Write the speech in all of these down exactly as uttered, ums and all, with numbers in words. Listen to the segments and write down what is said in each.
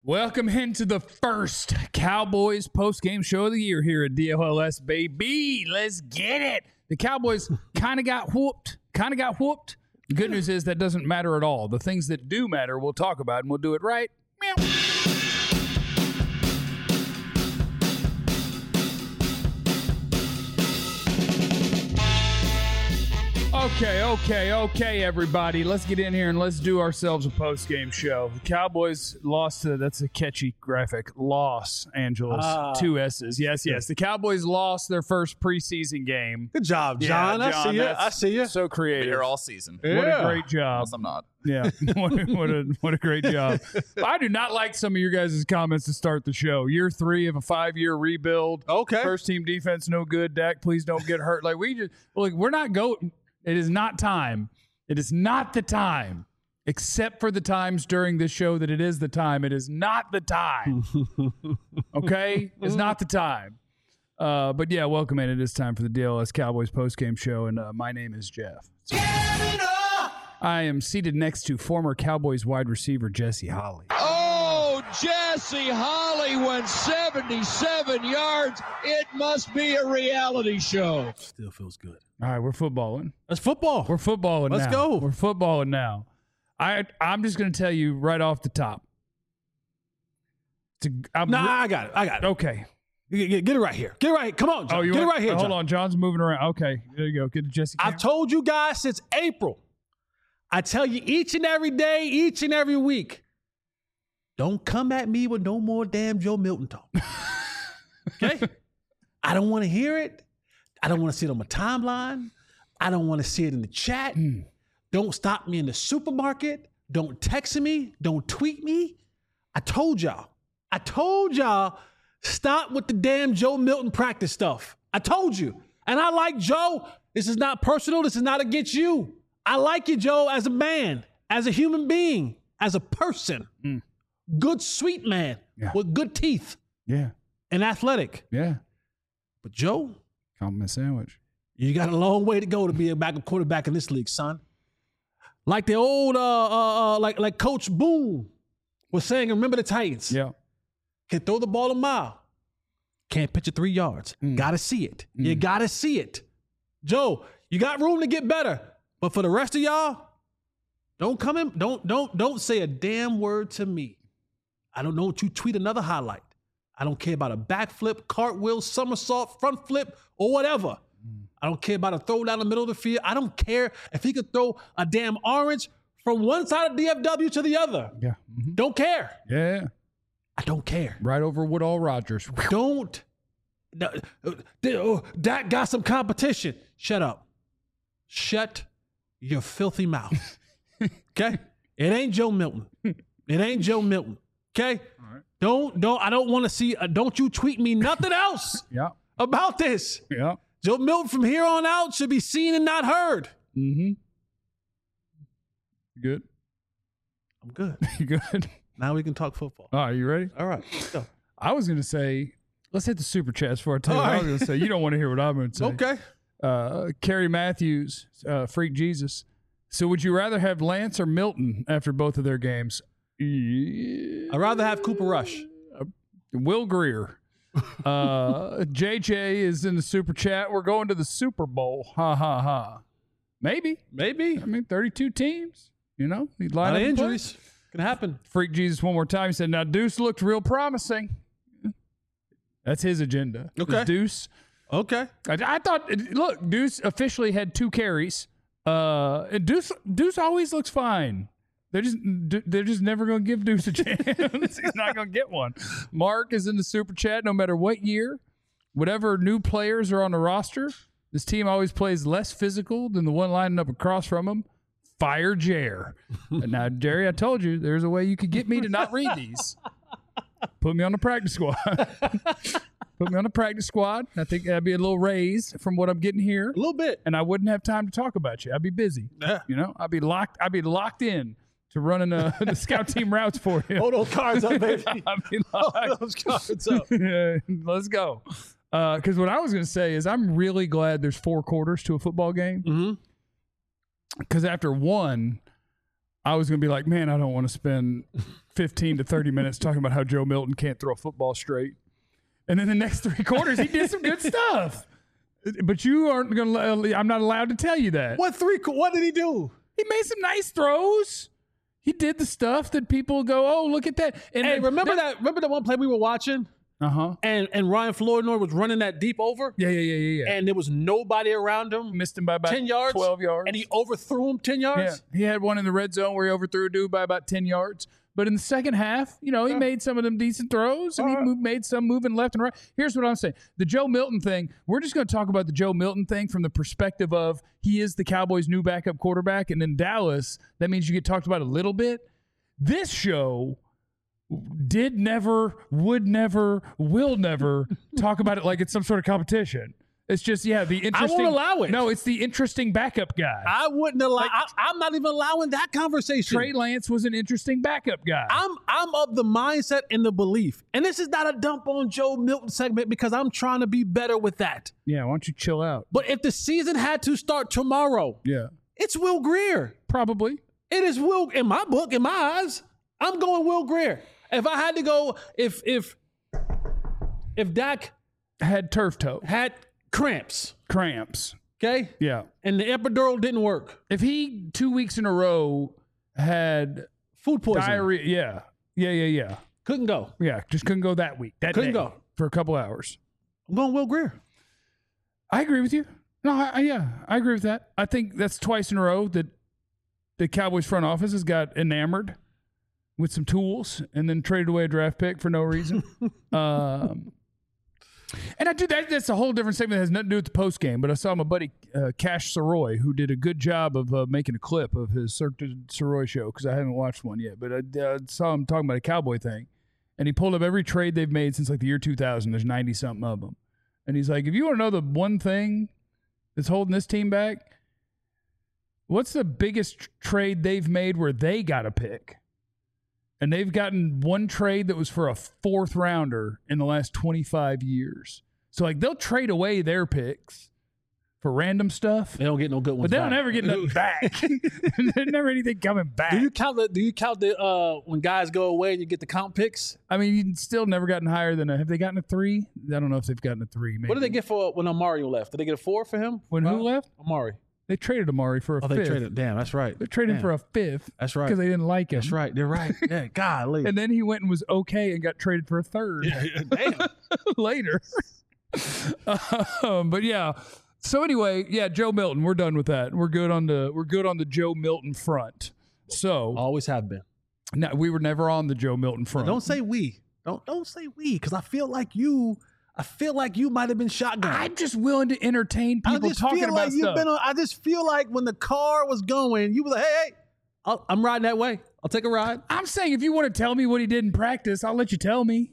Welcome into the first Cowboys post-game show of the year here at D L L S, baby. Let's get it. The Cowboys kind of got whooped, kind of got whooped. The good news is that doesn't matter at all. The things that do matter, we'll talk about, and we'll do it right. Meow. Okay, okay, okay, everybody. Let's get in here and let's do ourselves a post-game show. The Cowboys lost to, that's a catchy graphic, Los Angeles, ah. two S's. Yes, yes. The Cowboys lost their first preseason game. Good job, John. Yeah, John I see you. I see you. So creative. Here all season. Yeah. What a great job. Unless I'm not. Yeah, what, a, what, a, what a great job. I do not like some of your guys' comments to start the show. Year three of a five-year rebuild. Okay. First team defense, no good. Dak, please don't get hurt. Like, we just, like, we're not going. It is not time. It is not the time, except for the times during this show that it is the time. It is not the time. Okay? It's not the time. Uh, but, yeah, welcome in. It is time for the D L S Cowboys postgame show, and uh, my name is Jeff. I am seated next to former Cowboys wide receiver Jesse Holley. Oh, Jesse Holley went seventy-seven yards. It must be a reality show. Still feels good. All right, we're footballing. That's football. We're footballing Let's now. go. We're footballing now. I, I'm just going to tell you right off the top. To, I'm nah, re- I got it. I got it. Okay. Get, get, get it right here. Get it right. Come on, John. Oh, you get want, it right here, Hold John. on. John's moving around. Okay. There you go. Get to Jesse. I've told you guys since April. I tell you each and every day, each and every week, don't come at me with no more damn Joe Milton talk. Okay? I don't want to hear it. I don't want to see it on my timeline. I don't want to see it in the chat. Mm. Don't stop me in the supermarket. Don't text me. Don't tweet me. I told y'all. I told y'all, stop with the damn Joe Milton practice stuff. I told you. And I like Joe. This is not personal. This is not against you. I like you, Joe, as a man, as a human being, as a person. Mm. Good, sweet man Yeah. with good teeth. Yeah. And athletic. Yeah. But Joe, Compliment sandwich. you got a long way to go to be a backup quarterback in this league, son. Like the old, uh, uh, uh, like like Coach Boone was saying, remember the Titans. Yeah. Can throw the ball a mile. Can't pitch it three yards. Mm. Gotta see it. Mm. You gotta see it. Joe, you got room to get better. But for the rest of y'all, don't come in, don't, don't, don't say a damn word to me. I don't know what you tweet another highlight. I don't care about a backflip, cartwheel, somersault, front flip, or whatever. Mm. I don't care about a throw down the middle of the field. I don't care if he could throw a damn orange from one side of D F W to the other. Yeah. Mm-hmm. Don't care. Yeah. I don't care. Right over Woodall Rogers. Don't. That got some competition. Shut up. Shut your filthy mouth. Okay? It ain't Joe Milton. It ain't Joe Milton. Okay? All right. Don't, don't, I don't want to see, uh, don't you tweet me nothing else Yeah. about this. Yeah. Joe Milton from here on out should be seen and not heard. Mm-hmm. You good? I'm good. You good? Now we can talk football. All right, you ready? All right. Let's go. I was going to say, let's hit the super chats before I tell you All what I right. was going to say. You don't want to hear what I'm going to say. Okay. Uh, Kerry Matthews, uh, Freak Jesus. So would you rather have Lance or Milton after both of their games? Yeah. I'd rather have Cooper Rush. Uh, Will Greer. Uh, J J is in the super chat. We're going to the Super Bowl. Ha, ha, ha. Maybe. Maybe. I mean, thirty-two teams. You know, he'd A line lot of up and play. injuries. Can happen. Freak Jesus one more time. He said, now Deuce looked real promising. That's his agenda. Okay. Is Deuce. Okay. I, I thought, look, Deuce officially had two carries. Uh, and Deuce, Deuce always looks fine. They're just, they're just never going to give Deuce a chance. He's not going to get one. Mark is in the super chat. No matter what year, whatever new players are on the roster, this team always plays less physical than the one lining up across from them. Fire Jer. Now, Jerry, I told you there's a way you could get me to not read these. Put me on the practice squad. Put me on the practice squad. I think that'd be a little raise from what I'm getting here. A little bit. And I wouldn't have time to talk about you. I'd be busy. Yeah. You know, I'd be locked. I'd be locked in to running uh, the scout team routes for you. Hold those cards up, baby. I'd be Hold locked. those cards up. Yeah, let's go. Because what I was going to say is I'm really glad there's four quarters to a football game. Mm-hmm. Because after one, I was going to be like, man, I don't want to spend fifteen to thirty minutes talking about how Joe Milton can't throw a football straight. And then the next three quarters, he did some good stuff. But you aren't going to, I'm not allowed to tell you that. What three? What did he do? He made some nice throws. He did the stuff that people go, oh, look at that. And Hey, remember that? Remember the one play we were watching, Uh-huh. and and Ryan Flournoy was running that deep over, Yeah, yeah, yeah, yeah, yeah. and there was nobody around him, Missed him by about ten yards, twelve yards. and he overthrew him ten yeah, yards. he had one in the red zone where he overthrew a dude by about ten yards. But in the second half, you know, he made some of them decent throws, and he All right. moved, made some moving left and right. Here's what I'm saying. The Joe Milton thing, we're just going to talk about the Joe Milton thing from the perspective of he is the Cowboys' new backup quarterback, and in Dallas, that means you get talked about a little bit. This show did never, would never, will never talk about it like it's some sort of competition. It's just, yeah, the interesting. allow it. No, it's the interesting backup guy. I wouldn't allow. I, I'm not even allowing that conversation. Trey Lance was an interesting backup guy. I'm I'm of the mindset and the belief, and this is not a dump on Joe Milton segment because I'm trying to be better with that. yeah, why don't you chill out? But if the season had to start tomorrow, Yeah, it's Will Grier. probably. It is Will in my book, in my eyes. I'm going Will Grier. If I had to go, if if if Dak Had turf toe, had cramps, cramps. okay, Yeah. and the epidural didn't work, If he two weeks in a row had food poisoning, diarrhea, yeah, yeah, yeah, yeah, couldn't go. yeah, just couldn't go that week. That Couldn't day, go. for a couple hours. I'm going Will Grier. I agree with you. No, I, I, yeah, I agree with that. I think that's twice in a row that the Cowboys front office has got enamored with some tools and then traded away a draft pick for no reason. um, and I do that. That's a whole different segment that has nothing to do with the post game. But I saw my buddy uh, Cash Soroy, who did a good job of uh, making a clip of his Cirque du Soroy show because I haven't watched one yet. But I uh, saw him talking about a Cowboy thing, and he pulled up every trade they've made since like the year two thousand. There's ninety something of them, and he's like, if you want to know the one thing that's holding this team back, what's the biggest tr- trade they've made where they got a pick? And they've gotten one trade that was for a fourth rounder in the last twenty-five years. So, like, they'll trade away their picks for random stuff, They don't get no good ones, but they don't back. ever get nothing back. There's never anything coming back. Do you count the? Do you count the? Uh, when guys go away and you get the count picks? I mean, you still never gotten higher than a. Have they gotten a three? I don't know if they've gotten a three. Maybe. What did they get for when Amari left? Did they get a four for him? When who Uh, left? Amari. They traded Amari for a Oh, fifth. they traded. Damn, that's right. They traded him Damn. for a fifth. That's right. Because they didn't like him. That's right. They're right. Yeah, golly. And then he went and was okay and got traded for a third. Damn. later. um, but yeah. So anyway, yeah, Joe Milton. We're done with that. We're good on the we're good on the Joe Milton front. So Always have been. no, we were never on the Joe Milton front. Don't say we. Don't don't say we, because I feel like you. I feel like you might have been shotgun. I'm just willing to entertain I people just talking feel about like you've stuff. been. On, I just feel like when the car was going, you were like, "Hey, hey, I'll, I'm riding that way. I'll take a ride." I'm saying if you want to tell me what he did in practice, I'll let you tell me.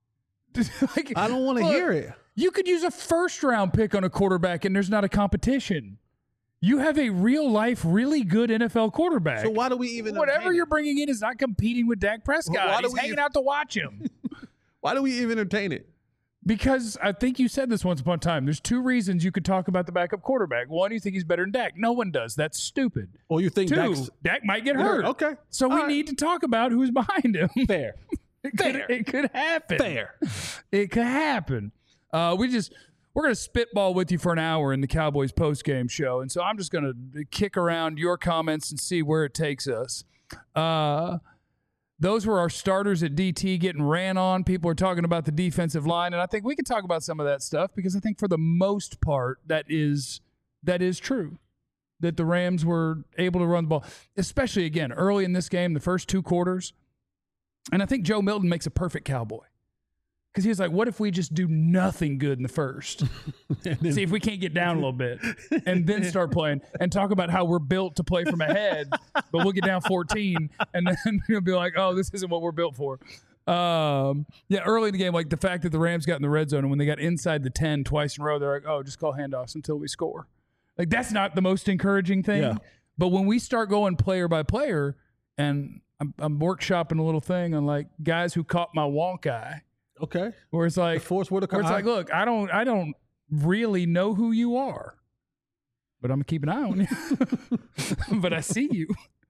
Like, I don't want to look, hear it. You could use a first round pick on a quarterback and there's not a competition. You have a real life, really good N F L quarterback. So why do we even? Whatever entertain you're it? bringing in is not competing with Dak Prescott. Why do He's we hanging even- out to watch him. Why do we even entertain it? Because I think you said this once upon a time. There's two reasons you could talk about the backup quarterback. One, you think he's better than Dak. No one does. That's stupid. Or you think Two, Dak's Dak might get hurt. Okay. So we All right. need to talk about who's behind him. fair? It could, Fair. it could happen. Fair. It could happen. Uh, we just we're gonna spitball with you for an hour in the Cowboys post game show, and so I'm just gonna kick around your comments and see where it takes us. Uh, those were our starters at D T getting ran on. People are talking about the defensive line, and I think we can talk about some of that stuff because I think for the most part that is that is true. That the Rams were able to run the ball, especially again early in this game, the first two quarters. And I think Joe Milton makes a perfect Cowboy. Because he was like, what if we just do nothing good in the first? See if we can't get down a little bit and then start playing and talk about how we're built to play from ahead, but we'll get down fourteen and then you'll be like, oh, this isn't what we're built for. Um, yeah, early in the game, like the fact that the Rams got in the red zone and when they got inside the ten twice in a row, they're like, oh, just call handoffs until we score. Like that's not the most encouraging thing. Yeah. But when we start going player by player and I'm, I'm workshopping a little thing on like guys who caught my wonk eye, Okay. where it's like, The force where the where it's like, look, I don't, I don't really know who you are, but I'm gonna keep an eye on you. But I see you.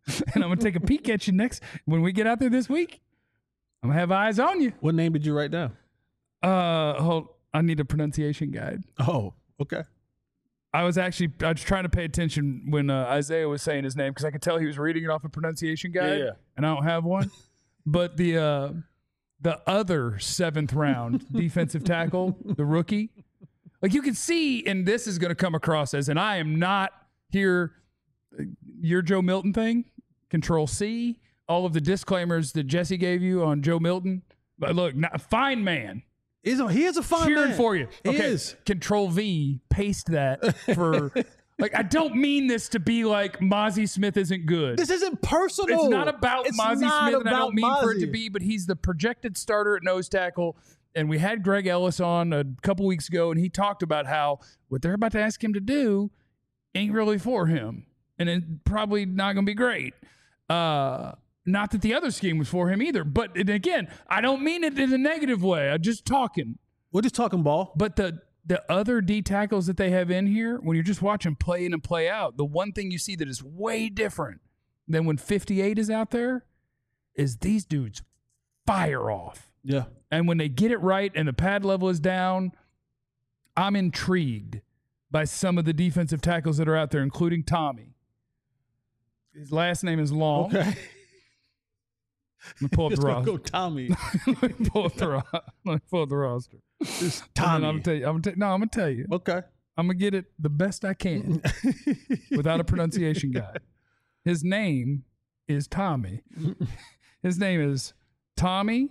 and I'm gonna take a peek at you next when we get out there this week. I'm gonna have eyes on you. What name did you write down? Uh, hold. I need a pronunciation guide. Oh, okay. I was actually I was trying to pay attention when uh, Isaiah was saying his name because I could tell he was reading it off a pronunciation guide, Yeah, yeah. and I don't have one. But the uh, the other seventh round defensive tackle, the rookie, like you can see, and this is going to come across as, and I am not here. Your Joe Milton thing, Control C, all of the disclaimers that Jesse gave you on Joe Milton. But look, not, fine man. He's a, he is a fine Cheering man. for you. He Okay, is. Control V, paste that for. Like, I don't mean this to be like Mozzie Smith isn't good. This isn't personal. It's not about It's Mozzie not Smith, and I about don't mean for it to Mozzie. be, but he's the projected starter at nose tackle. And we had Greg Ellis on a couple weeks ago, and he talked about how what they're about to ask him to do ain't really for him, and it's probably not going to be great. Uh, not that the other scheme was for him either, but and again, I don't mean it in a negative way. I'm just talking. We're just talking ball. But the the other D tackles that they have in here, when you're just watching play in and play out, the one thing you see that is way different than when fifty-eight is out there is these dudes fire off. Yeah. And when they get it right and the pad level is down, I'm intrigued by some of the defensive tackles that are out there, including Tommy. His last name is long. Okay. Let me pull up Just the gonna roster. go Tommy. Let me pull up the, ro- Let me pull up the roster. It's And then I'm Tommy. gonna tell you. I'm gonna tell, no, I'm gonna tell you. Okay. I'm gonna get it the best I can without a pronunciation guide. His name is Tommy. His name is Tommy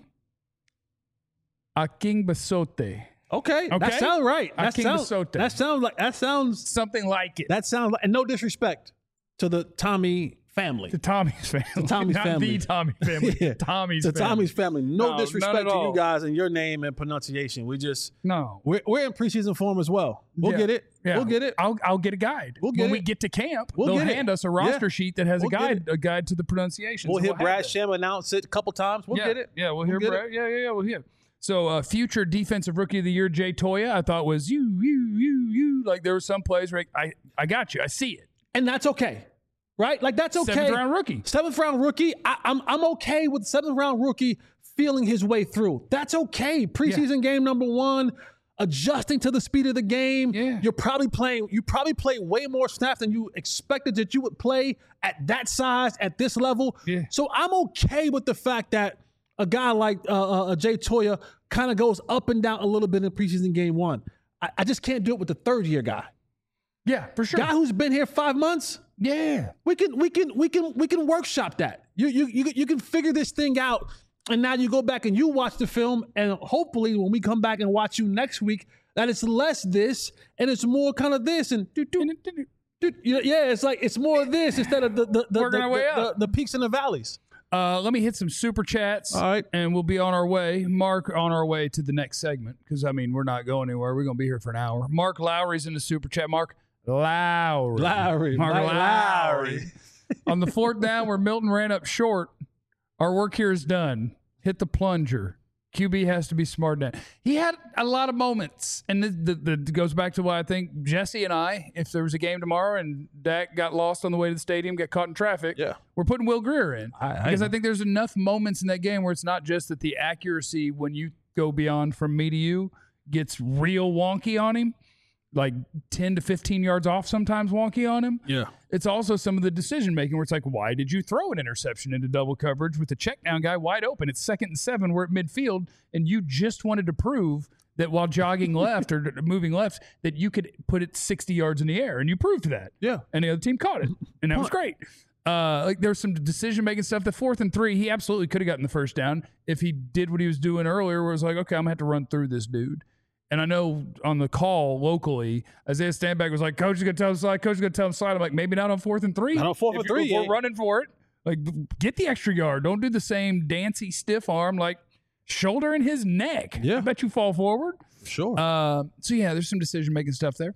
Akingbasote. Okay. Okay. That sounds right. That Aking sounds, Basote. that sounds like that sounds Something like it. that sounds like, and no disrespect to the Tommy family. To Tommy's family. Tommy's Not family. the Tommy family. Yeah. Tommy's to family. Tommy's family. No, No, disrespect none at to all. you guys and your name and pronunciation. We just No. we're, we're in preseason form as well. We'll Yeah. get it. Yeah. We'll get it. I'll I'll get a guide. We'll get when we it. get to camp, We'll they'll get it. hand us a roster Yeah. sheet that has We'll a get guide it. a guide to the pronunciation. We'll So hear have Brad that. Sham announce it a couple times. We'll yeah. get it. Yeah, we'll, We'll hear get Brad. Yeah, yeah, yeah, we'll hear. So, uh, future defensive rookie of the year, Jay Toya, I thought was you, you, you, you. Like there were some plays where I, I got you. I see it. And that's okay. Right? Like that's okay. Seventh round rookie. Seventh round rookie. I, I'm I'm okay with seventh round rookie feeling his way through. That's okay. Preseason game number one, adjusting to the speed of the game. Yeah. You're probably playing. You probably play way more snaps than you expected that you would play at that size at this level. Yeah. So I'm okay with the fact that a guy like uh, uh, Jay Toya kind of goes up and down a little bit in preseason game one. I, I just can't do it with the third year guy. Yeah, for sure. Guy who's been here five months. Yeah. We can we can we can we can workshop that. You you you you can figure this thing out, and now you go back and you watch the film, and hopefully when we come back and watch you next week, that it's less this and it's more kind of this and do do do. Yeah, it's like it's more of this instead of the the the, Working the, our way the, up. the, the peaks and the valleys. Uh, let me hit some super chats. All right. And we'll be on our way. Mark, on our way to the next segment because, I mean, we're not going anywhere. We're going to be here for an hour. Mark Lowry's in the super chat. Mark Lowry. Lowry, Mark Mike Lowry. Lowry. On the fourth down where Milton ran up short, our work here is done. Hit the plunger. Q B has to be smart now. He had a lot of moments, and the, the, the goes back to why I think Jesse and I, if there was a game tomorrow and Dak got lost on the way to the stadium, got caught in traffic, Yeah. we're putting Will Greer in I- I because I know. think there's enough moments in that game where it's not just that the accuracy when you go beyond from me to you gets real wonky on him, like ten to fifteen yards off sometimes wonky on him. Yeah. It's also some of the decision making where it's like, why did you throw an interception into double coverage with the check down guy wide open? It's second and seven. We're at midfield, and you just wanted to prove that while jogging left or moving left, that you could put it sixty yards in the air, and you proved that. Yeah. And the other team caught it, and that was great. Uh, like there's some decision making stuff. The fourth and three, he absolutely could have gotten the first down if he did what he was doing earlier, where it was like, okay, I'm gonna have to run through this dude. And I know on the call locally, Isaiah Stanback was like, coach is going to tell him slide, coach is going to tell him slide. I'm like, maybe not on fourth and three. Not on fourth If and you- three, If we're yeah. running for it, like get the extra yard. Don't do the same dancy stiff arm, like shoulder in his neck. Yeah. I bet you fall forward. Sure. Uh, so yeah, there's some decision making stuff there.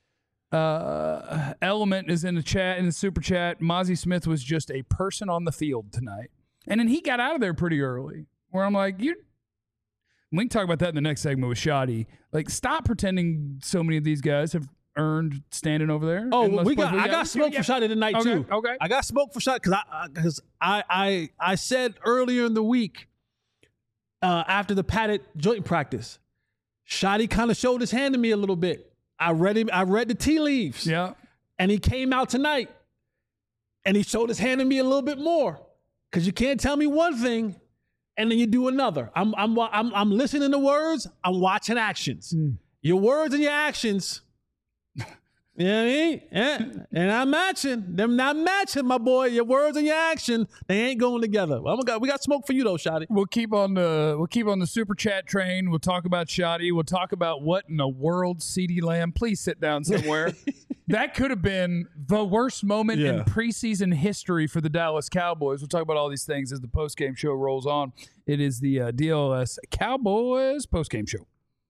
Uh, Element is in the chat, in the super chat. Mozzie Smith was just a person on the field tonight. And then he got out of there pretty early, where I'm like, you we can talk about that in the next segment with Shoddy. Like, stop pretending so many of these guys have earned standing over there. Oh, Unless we got. Puerto I Rico- got smoke yeah. for Shotty tonight Okay, too. okay. I got smoke for Shotty because I because I, I I said earlier in the week uh, after the padded joint practice, Shotty kind of showed his hand to me a little bit. I read him. I read the tea leaves. Yeah. And he came out tonight, and he showed his hand to me a little bit more because you can't tell me one thing and then you do another. I'm I'm I'm I'm listening to words. I'm watching actions. Mm. Your words and your actions. You know what I mean? Yeah. And I'm matching. Them not matching, my boy. Your words and your action, they ain't going together. Well, we got we got smoke for you though, Shotty. We'll keep on the we'll keep on the super chat train. We'll talk about Shotty. We'll talk about what in the world CeeDee Lamb. Please sit down somewhere. That could have been the worst moment Yeah. in preseason history for the Dallas Cowboys. We'll talk about all these things as the postgame show rolls on. It is the uh, D L S Cowboys postgame show.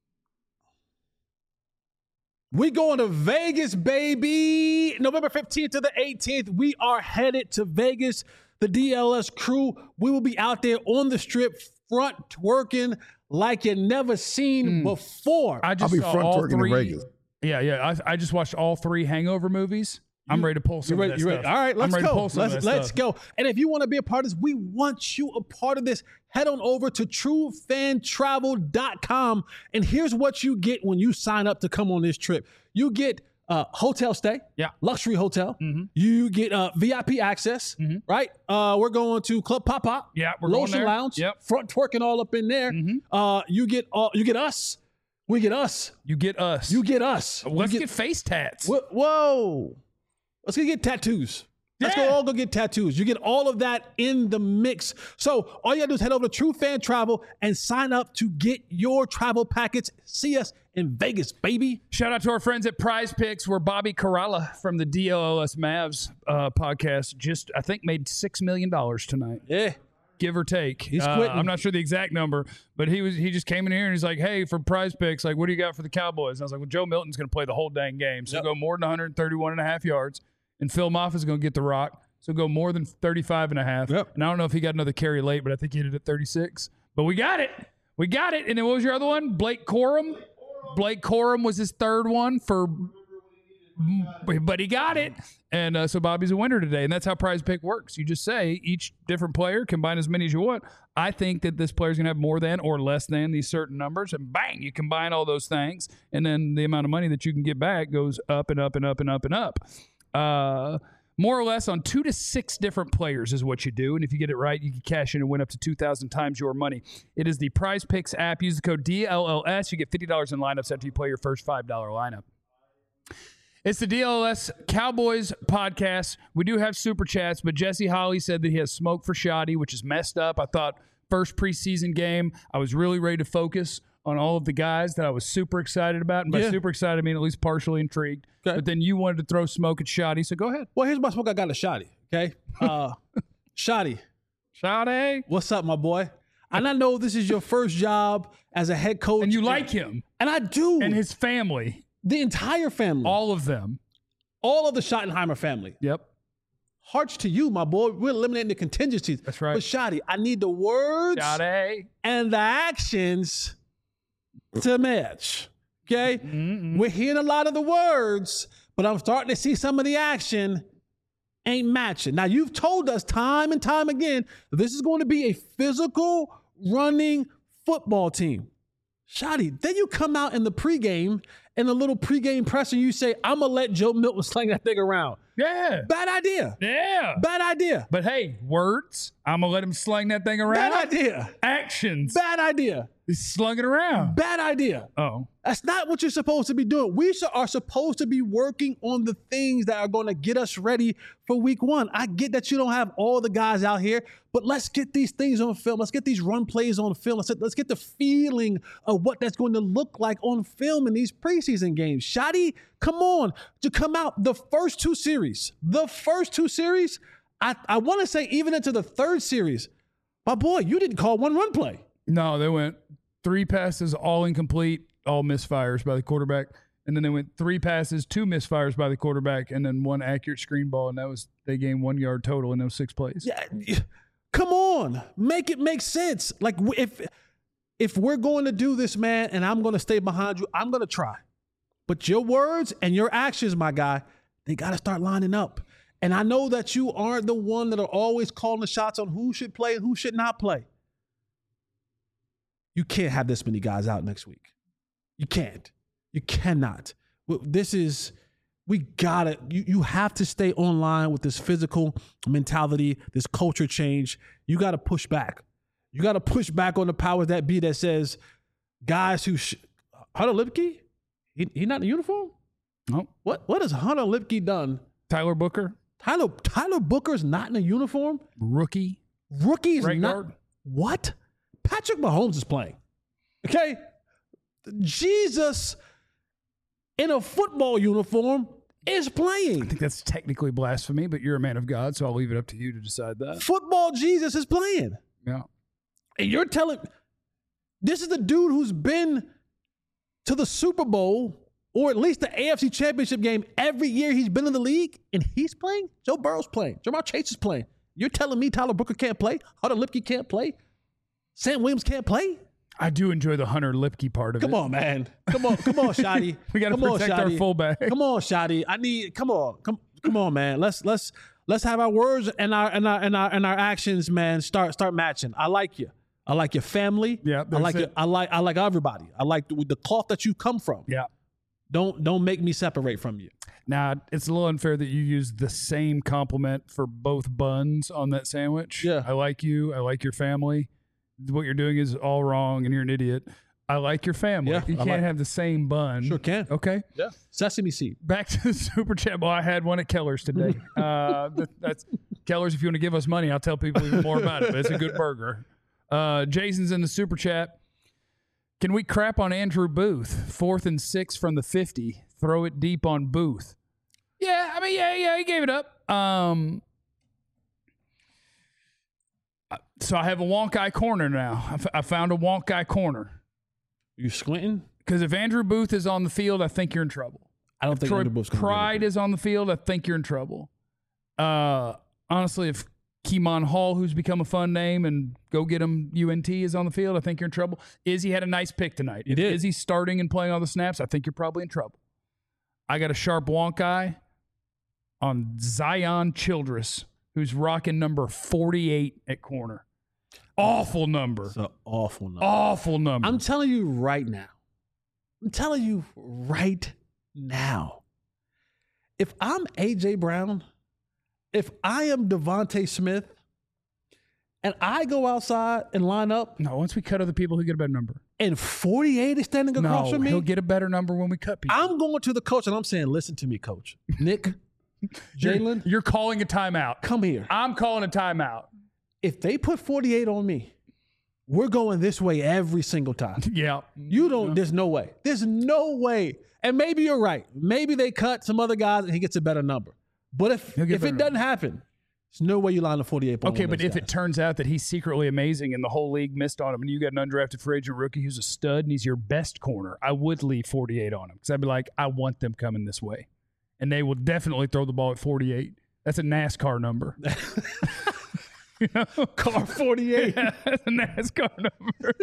We going to Vegas, baby. November fifteenth to the eighteenth. We are headed to Vegas. The D L S crew. We will be out there on the strip, front twerking like you never seen Mm. before. I just I'll be saw front all twerking in three. Vegas. Yeah, yeah. I, I just watched all three Hangover movies. I'm ready to pull some You of ready, that you stuff. ready? All right, let's I'm ready To go. pull some Let's of that let's stuff. go. And if you want to be a part of this, we want you a part of this. Head on over to true fan travel dot com. And here's what you get when you sign up to come on this trip. You get uh, hotel stay, Yeah. luxury hotel. Mhm. You get uh, V I P access, Mhm. right? Uh, we're going to Club Pop Pop. Yeah, we're going Lotion there. Lounge. Yep. Front twerking all up in there. Mhm. Uh, you get uh, you get us. We get us. You get us. You get us. Let's You get, face tats. Whoa, whoa. Let's go get tattoos. Let's Yeah. go all go get tattoos. You get all of that in the mix. So all you gotta do is head over to True Fan Travel and sign up to get your travel packets. See us in Vegas, baby. Shout out to our friends at Prize Picks, where Bobby Karalla from the D L L S Mavs uh, podcast just, I think, made six million dollars tonight. Yeah. Give or take. He's Uh, quitting. I'm not sure the exact number, but he was he just came in here and he's like, hey, for Prize Picks, like, what do you got for the Cowboys? And I was like, well, Joe Milton's going to play the whole dang game. So Yep. go more than one thirty-one and a half yards. And Phil Moffitt's going to get the rock. So go more than thirty-five and a half. Yep. And I don't know if he got another carry late, but I think he hit it at thirty-six. But we got it. We got it. And then what was your other one? Blake Corum. Blake Corum was his third one for, but he got it. And uh, so Bobby's a winner today. And that's how Prize Pick works. You just say each different player, combine as many as you want. I think that this player's going to have more than or less than these certain numbers. And bang, you combine all those things. And then the amount of money that you can get back goes up and up and up and up and up. Uh, more or less on two to six different players is what you do. And if you get it right, you can cash in and win up to two thousand times your money. It is the Prize Picks app. Use the code D L L S. You get fifty dollars in lineups after you play your first five dollar lineup. It's the D L L S Cowboys podcast. We do have super chats, but Jesse Holly said that he has smoke for Shotty, which is messed up. I thought first preseason game, I was really ready to focus on all of the guys that I was super excited about. And by Yeah. super excited, I mean at least partially intrigued. Okay. But then you wanted to throw smoke at Shotty, so go ahead. Well, here's my smoke. I got a Shotty. Okay. Uh, Shotty, Shotty. what's up, my boy? And I know this is your first job as a head coach. And you like him And I do. and his family, the entire family. all of them. all of the Schottenheimer family. Yep. Hearts to you, my boy. We're eliminating the contingencies. That's right. But Shotty, I need the words Shotty. and the actions to match. Okay? Mm-mm. We're hearing a lot of the words, but I'm starting to see some of the action ain't matching. Now, you've told us time and time again that this is going to be a physical running football team. Shotty, then you come out in the pregame and a little pregame presser, you say, I'm going to let Joe Milton sling that thing around. Yeah. Bad idea. Yeah. Bad idea. But hey, words, I'm going to let him sling that thing around. Bad idea. Actions, Bad idea. he slung it around. Bad idea. Oh. That's not what you're supposed to be doing. We sh- are supposed to be working on the things that are going to get us ready for week one. I get that you don't have all the guys out here, but let's get these things on film. Let's get these run plays on film. Let's, let's get the feeling of what that's going to look like on film in these preseason games. Shotty, come on. To come out the first two series, the first two series, I, I want to say even into the third series, my boy, you didn't call one run play. No, they went three passes, all incomplete, all misfires by the quarterback. And then they went three passes, two misfires by the quarterback, and then one accurate screen ball. And that was, they gained one yard total in those six plays. Yeah, come on, make it make sense. Like if if we're going to do this, man, and I'm going to stay behind you, I'm going to try. But your words and your actions, my guy, they got to start lining up. And I know that you aren't the one that are always calling the shots on who should play and who should not play. You can't have this many guys out next week. You can't. You cannot. This is, we got it. You, you have to stay online with this physical mentality, this culture change. You got to push back. You got to push back on the powers that be that says guys who, sh- Hunter Lipke, he, he not in uniform? No. What, what has Hunter Lipke done? Tyler Booker? Tyler Tyler Booker's not in a uniform? Rookie? Rookie's right not. Guard? What? Patrick Mahomes is playing. Okay? Jesus in a football uniform is playing. I think that's technically blasphemy, but you're a man of God, so I'll leave it up to you to decide that. Football Jesus is playing. Yeah. And you're telling, this is the dude who's been to the Super Bowl or at least the A F C Championship game every year he's been in the league, and he's playing? Joe Burrow's playing. Jamar Chase is playing. You're telling me Tyler Booker can't play? Hunter Lipke can't play? Sam Williams can't play? I do enjoy the Hunter Lipke part of come it. Come on, man. Come on. Come on, Shotty. We got to protect our fullback. Come on, Shotty. I need, come on. Come come on, man. Let's let's let's have our words and our and our and our and our actions, man, start start matching. I like you. I like your family. Yeah. I like it. I like I like everybody. I like the, the cloth that you come from. Yeah. Don't don't make me separate from you. Now, it's a little unfair that you use the same compliment for both buns on that sandwich. Yeah. I like you. I like your family. What you're doing is all wrong and you're an idiot. I like your family. Yeah, you I can't like- have the same bun. Sure can. Okay. Yeah. Sesame seed. Back to the Super Chat. Well, I had one at Keller's today. uh, that, that's Keller's. If you want to give us money, I'll tell people even more about it. But it's a good burger. Uh, Jason's in the Super Chat. Can we crap on Andrew Booth? Fourth and six from the fifty. Throw it deep on Booth. Yeah, I mean, yeah, yeah, he gave it up. Um, so I have a wonk eye corner now. I, f- I found a wonk eye corner. You squinting? Because if Andrew Booth is on the field, I think you're in trouble. I don't think Troy Andrew Booth's gonna do Pride anything. is on the field, I think you're in trouble. Uh, honestly, if Keemon Hall, who's become a fun name, and go get him U N T is on the field, I think you're in trouble. Izzy had a nice pick tonight. He if did. Izzy's starting and playing all the snaps, I think you're probably in trouble. I got a sharp wonk eye on Zion Childress, who's rocking number forty-eight at corner. Awful number. It's an awful number. Awful number. I'm telling you right now. I'm telling you right now. If I'm A J Brown, if I am Devontae Smith, and I go outside and line up, no, once we cut other people, he'll get a better number. and forty-eight is standing across No, from me, he'll get a better number when we cut people. I'm going to the coach and I'm saying, listen to me, coach. Nick, You're- Jalen, You're calling a timeout. come here. I'm calling a timeout. If they put forty-eight on me, we're going this way every single time. Yeah. You don't, there's no way. There's no way. And maybe you're right. Maybe they cut some other guys and he gets a better number. But if He'll get if a it better doesn't happen, there's no way you line a forty-eight point. Okay, but if it turns out that he's secretly amazing and the whole league missed on him and you got an undrafted free agent rookie who's a stud and he's your best corner, I would leave forty-eight on him because I'd be like, I want them coming this way. And they will definitely throw the ball at forty-eight. That's a NASCAR number. You know? car forty-eight. Yeah, that's a NASCAR number.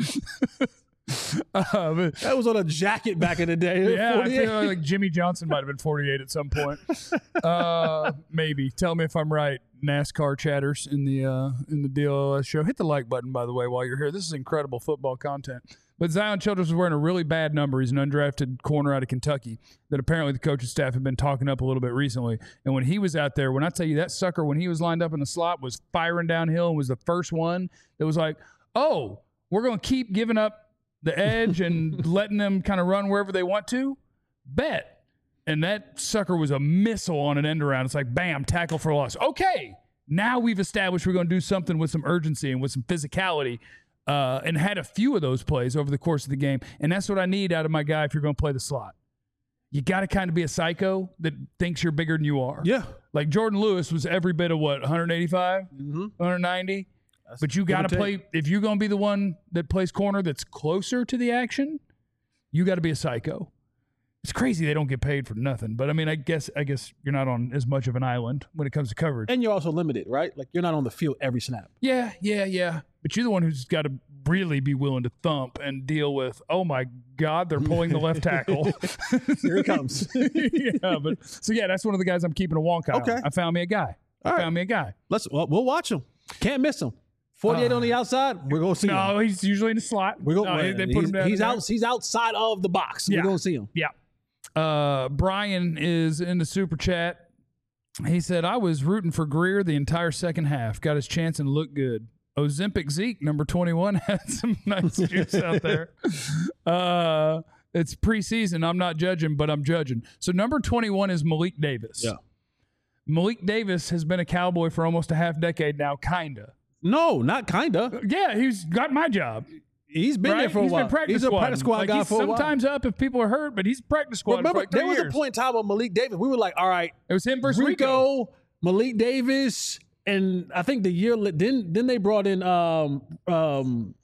uh, but, That was on a jacket back in the day. yeah, I forty-eight. feel like Jimmy Johnson might have been forty-eight at some point. Uh, maybe. Tell me if I'm right. NASCAR chatters in the uh, in the D L O S show. Hit the like button, by the way, while you're here. This is incredible football content. But Zion Childress was wearing a really bad number. He's an undrafted corner out of Kentucky that apparently the coaching staff have been talking up a little bit recently. And when he was out there, when I tell you that sucker, when he was lined up in the slot, was firing downhill and was the first one that was like, oh, we're going to keep giving up the edge and letting them kind of run wherever they want to? Bet. And that sucker was a missile on an end around. It's like, bam, tackle for loss. Okay, now we've established we're going to do something with some urgency and with some physicality. Uh, and had a few of those plays over the course of the game. And that's what I need out of my guy if you're going to play the slot. You got to kind of be a psycho that thinks you're bigger than you are. Yeah. Like Jordan Lewis was every bit of what, one eighty-five, Mm-hmm. one ninety? But you give or got to play, if you're going to be the one that plays corner that's closer to the action, you got to be a psycho. It's crazy they don't get paid for nothing. But I mean, I guess I guess you're not on as much of an island when it comes to coverage. And you're also limited, right? Like you're not on the field every snap. Yeah, yeah, yeah. But you're the one who's got to really be willing to thump and deal with, oh my God, they're pulling the left tackle. Here it comes. yeah, but so yeah, that's one of the guys I'm keeping a wonk eye Okay. on. I found me a guy. All I right. found me a guy. Let's well, we'll watch him. Can't miss him. forty-eight Uh, on the outside. We're gonna see him. No, he's usually in the slot. We're gonna. No, they- they put he's him down he's in there. out. He's outside of the box. Yeah. We're gonna see him. Yeah. Uh, Brian is in the super chat. He said, I was rooting for Greer the entire second half. Got his chance and looked good. Ozempic Zeke, number twenty-one, had some nice juice out there. Uh, it's preseason. I'm not judging, but I'm judging. So number twenty-one is Malik Davis. Yeah. Malik Davis has been a Cowboy for almost a half decade now, kinda. No, not kinda. Yeah, he's got my job. He's been right? there for a He's while. been practice he's a squad. practice squad like guy he's for a while. sometimes up if people are hurt, but he's practice squad Remember, for like three there was years. a point in time with Malik Davis. We were like, all right, It was him versus Rico. Rico, Malik Davis, and I think the year then then they brought in um um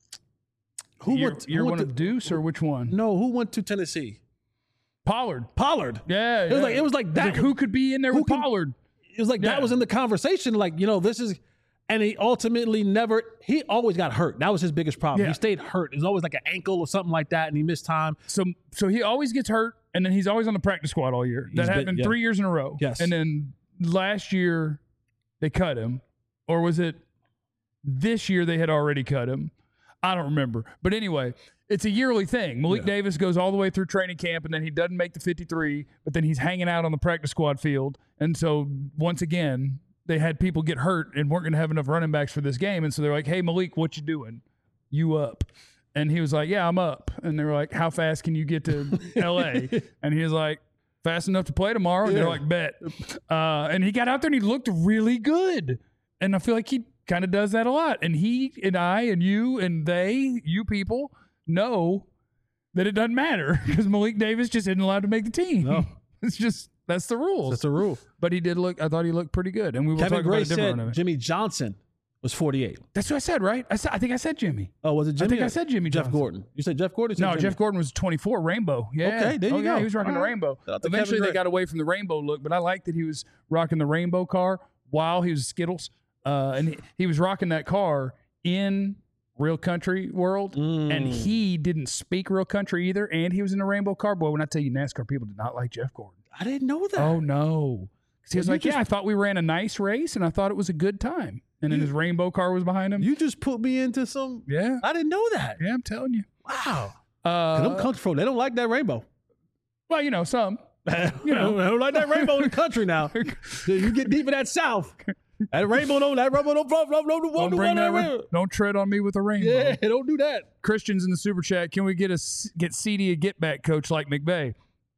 who Year, went year who one went of to, Deuce or which one? no who went to Tennessee? Pollard. Pollard. Yeah, It was like it was like that. Like, who could be in there who with can- Pollard? It was like Yeah. that was in the conversation. Like, you know, this is, and he ultimately never, he always got hurt. That was his biggest problem. Yeah. He stayed hurt. It was always like an ankle or something like that, and he missed time. So, so he always gets hurt, and then he's always on the practice squad all year. That He's been- happened yeah. three years in a row. Yes. And then last year they cut him, or was it this year they had already cut him? I don't remember. But anyway, it's a yearly thing. Malik Yeah. Davis goes all the way through training camp, and then he doesn't make the fifty-three, but then he's hanging out on the practice squad field. And so once again, they had people get hurt and weren't going to have enough running backs for this game. And so they're like, hey, Malik, what you doing? You up? And he was like, yeah, I'm up. And they were like, how fast can you get to L A? And he was like, fast enough to play tomorrow. And they're Yeah. like, bet. Uh, and he got out there and he looked really good. And I feel like he kind of does that a lot. And he and I and you and they, you people, know that it doesn't matter because Malik Davis just isn't allowed to make the team. No. It's just, that's the rules. That's a rule. But he did look, I thought he looked pretty good. And we will Kevin talk Gray about a different one said of it. Jimmy Johnson was forty-eight. That's what I said, right? I, said, I think I said Jimmy. Oh, was it Jimmy? I think or I said Jimmy Jeff Johnson. Gordon. You said Jeff Gordon? or you said No, Jimmy? Jeff Gordon was twenty-four, rainbow. Yeah. Okay, there you oh, yeah, go. he was rocking All the right. rainbow. Shout out to Eventually, Kevin they Gray. got away from the rainbow look, but I liked that he was rocking the rainbow car while he was Skittles. Uh, and he, he was rocking that car in real country world, Mm. and he didn't speak real country either, and he was in a rainbow car. Boy, when I tell you NASCAR people did not like Jeff Gordon. I didn't know that. Oh, no. 'Cause he was Well, you like, just- yeah, I thought we ran a nice race, and I thought it was a good time. And then You- his rainbow car was behind him. You just put me into some. yeah. I didn't know that. Yeah, I'm telling you. Wow. Cause I'm Uh, country folk. They don't like that rainbow. well, you know, some. You know, they don't like that rainbow in the country now. You get deep in that south. That rainbow don't, that rainbow don't, don't, don't, don't, Don't, don't, bring that rainbow. ra- don't tread on me with a rainbow. Yeah, don't do that. Christians in the super chat, can we get a s- get C D a get back coach like McVay?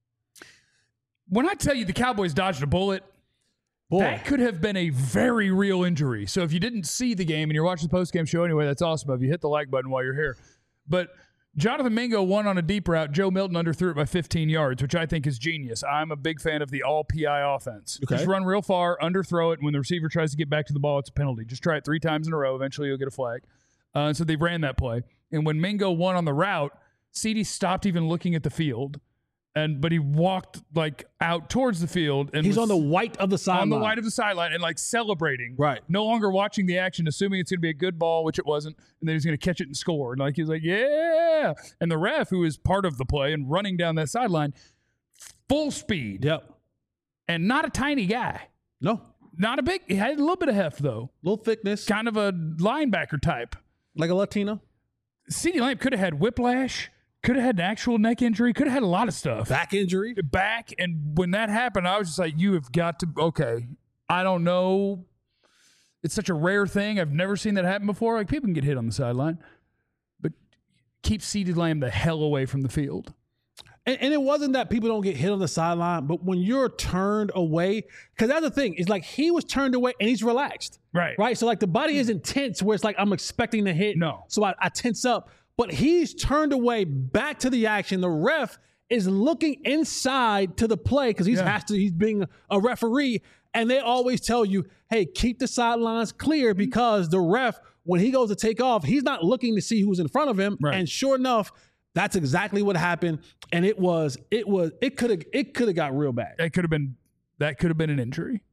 When I tell you the Cowboys dodged a bullet, Boy, that could have been a very real injury. So if you didn't see the game and you're watching the post game show anyway, that's awesome. If you hit the like button while you're here, but Jonathan Mingo won on a deep route. Joe Milton underthrew it by fifteen yards, which I think is genius. I'm a big fan of the all P I offense. Okay. Just run real far, underthrow it. And when the receiver tries to get back to the ball, it's a penalty. Just try it three times in a row. Eventually, you'll get a flag. Uh, so they ran that play. And when Mingo won on the route, C D stopped even looking at the field, and but he walked like out towards the field and he's was on the white of the sideline. on the white of the sideline and like celebrating. Right. No longer watching the action, assuming it's going to be a good ball, which it wasn't, and then he's going to catch it and score. And like he was like, yeah. And the ref, who is part of the play and running down that sideline, full speed, Yep. and not a tiny guy, No. not a big. He had a little bit of heft though, Little thickness. kind of a linebacker type. Like a Latino. CeeDee Lamb could have had whiplash, could have had an actual neck injury, could have had a lot of stuff. Back injury. Back, and when that happened, I was just like, you have got to, okay, I don't know. It's such a rare thing. I've never seen that happen before. Like, people can get hit on the sideline, but keep CeeDee Lamb the hell away from the field. And, and it wasn't that people don't get hit on the sideline, but when you're turned away, because that's the thing, it's like he was turned away and he's relaxed. Right. Right. So like the body isn't tense where it's like I'm expecting to hit. No. So I, I tense up. But he's turned away back to the action. The ref is looking inside to the play because he's Yeah. has to, he's being a referee. And they always tell you, hey, keep the sidelines clear because the ref, when he goes to take off, he's not looking to see who's in front of him. Right. And sure enough, that's exactly what happened. And it was, it was, it could have, it could have got real bad. That could have been, that could have been an injury.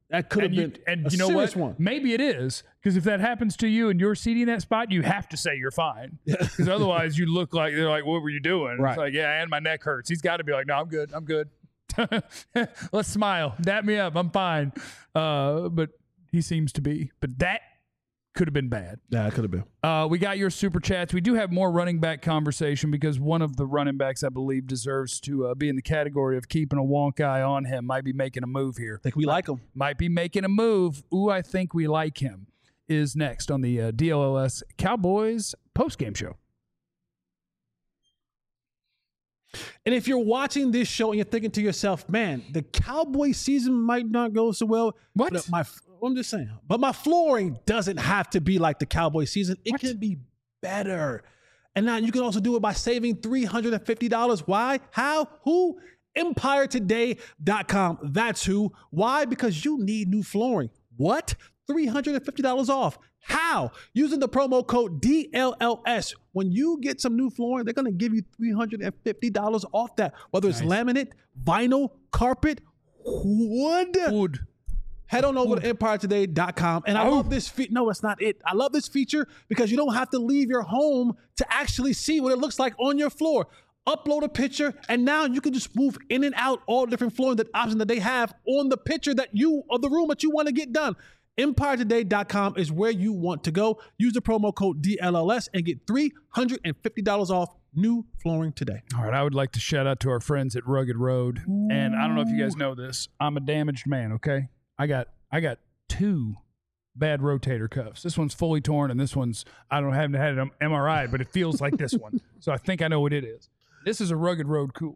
That could have and you, been and a you know serious what? one. Maybe it is, because if that happens to you and you're seating that spot, you have to say you're fine, because otherwise you look like they're like, "What were you doing?" Right. It's like, "Yeah, and my neck hurts." He's got to be like, "No, I'm good. I'm good." Let's smile. Dap me up. I'm fine. Uh, but he seems to be. But that could have been bad. Yeah, it could have been. Uh, we got your super chats. We do have more running back conversation, because one of the running backs, I believe, deserves to uh, be in the category of keeping a wonk eye on him. Might be making a move here. I think we like him. Might be making a move. Ooh, I think we like him. Is next on the uh, D L L S Cowboys postgame show. And if you're watching this show and you're thinking to yourself, man, the Cowboy season might not go so well. What? But my, I'm just saying. But my flooring doesn't have to be like the Cowboy season. It What? can be better. And now you can also do it by saving three hundred fifty dollars. Why? How? Who? empire today dot com. That's who. Why? Because you need new flooring. What? three hundred fifty dollars off. How? Using the promo code D L L S. When you get some new flooring, they're going to give you three hundred fifty dollars off that. Whether it's Nice. laminate, vinyl, carpet, wood. Wood. Head on over to empire today dot com. And I Oh. love this feature. No, that's not it. I love this feature because you don't have to leave your home to actually see what it looks like on your floor. Upload a picture, and now you can just move in and out all different flooring that options that they have on the picture that you of the room that you want to get done. empire today dot com is where you want to go. Use the promo code D L L S and get three hundred fifty dollars off new flooring today. All right, I would like to shout out to our friends at Rugged Road. And I don't know if you guys know this. I'm a damaged man, okay? I got I got two bad rotator cuffs. This one's fully torn, and this one's, I don't haven't had an M R I, but it feels like this one. So I think I know what it is. This is a Rugged Road cooler.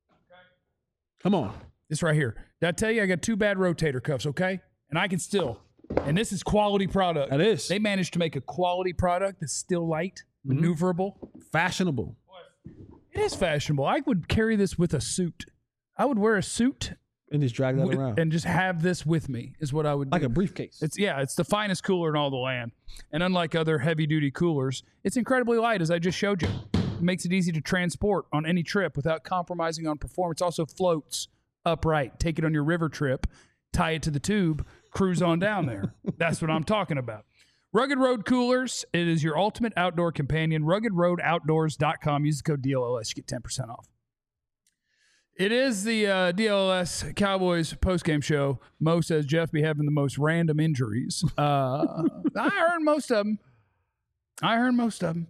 Come on. This right here. Did I tell you I got two bad rotator cuffs, okay? And I can still, and this is quality product. That is. They managed to make a quality product that's still light, maneuverable. Fashionable. It is fashionable. I would carry this with a suit. I would wear a suit And just drag that with- around. and just have this with me is what I would do. Like a briefcase. It's yeah, it's the finest cooler in all the land. And unlike other heavy duty coolers, it's incredibly light, as I just showed you. It makes it easy to transport on any trip without compromising on performance. Also floats upright. Take it on your river trip, tie it to the tube, cruise on down there. That's what I'm talking about. Rugged Road Coolers, it is your ultimate outdoor companion. rugged road outdoors dot com. Use the code D L L S. You get ten percent off. It is the uh, D L L S Cowboys postgame show. Mo says Jeff be having the most random injuries. Uh, I heard most of them. I heard most of them.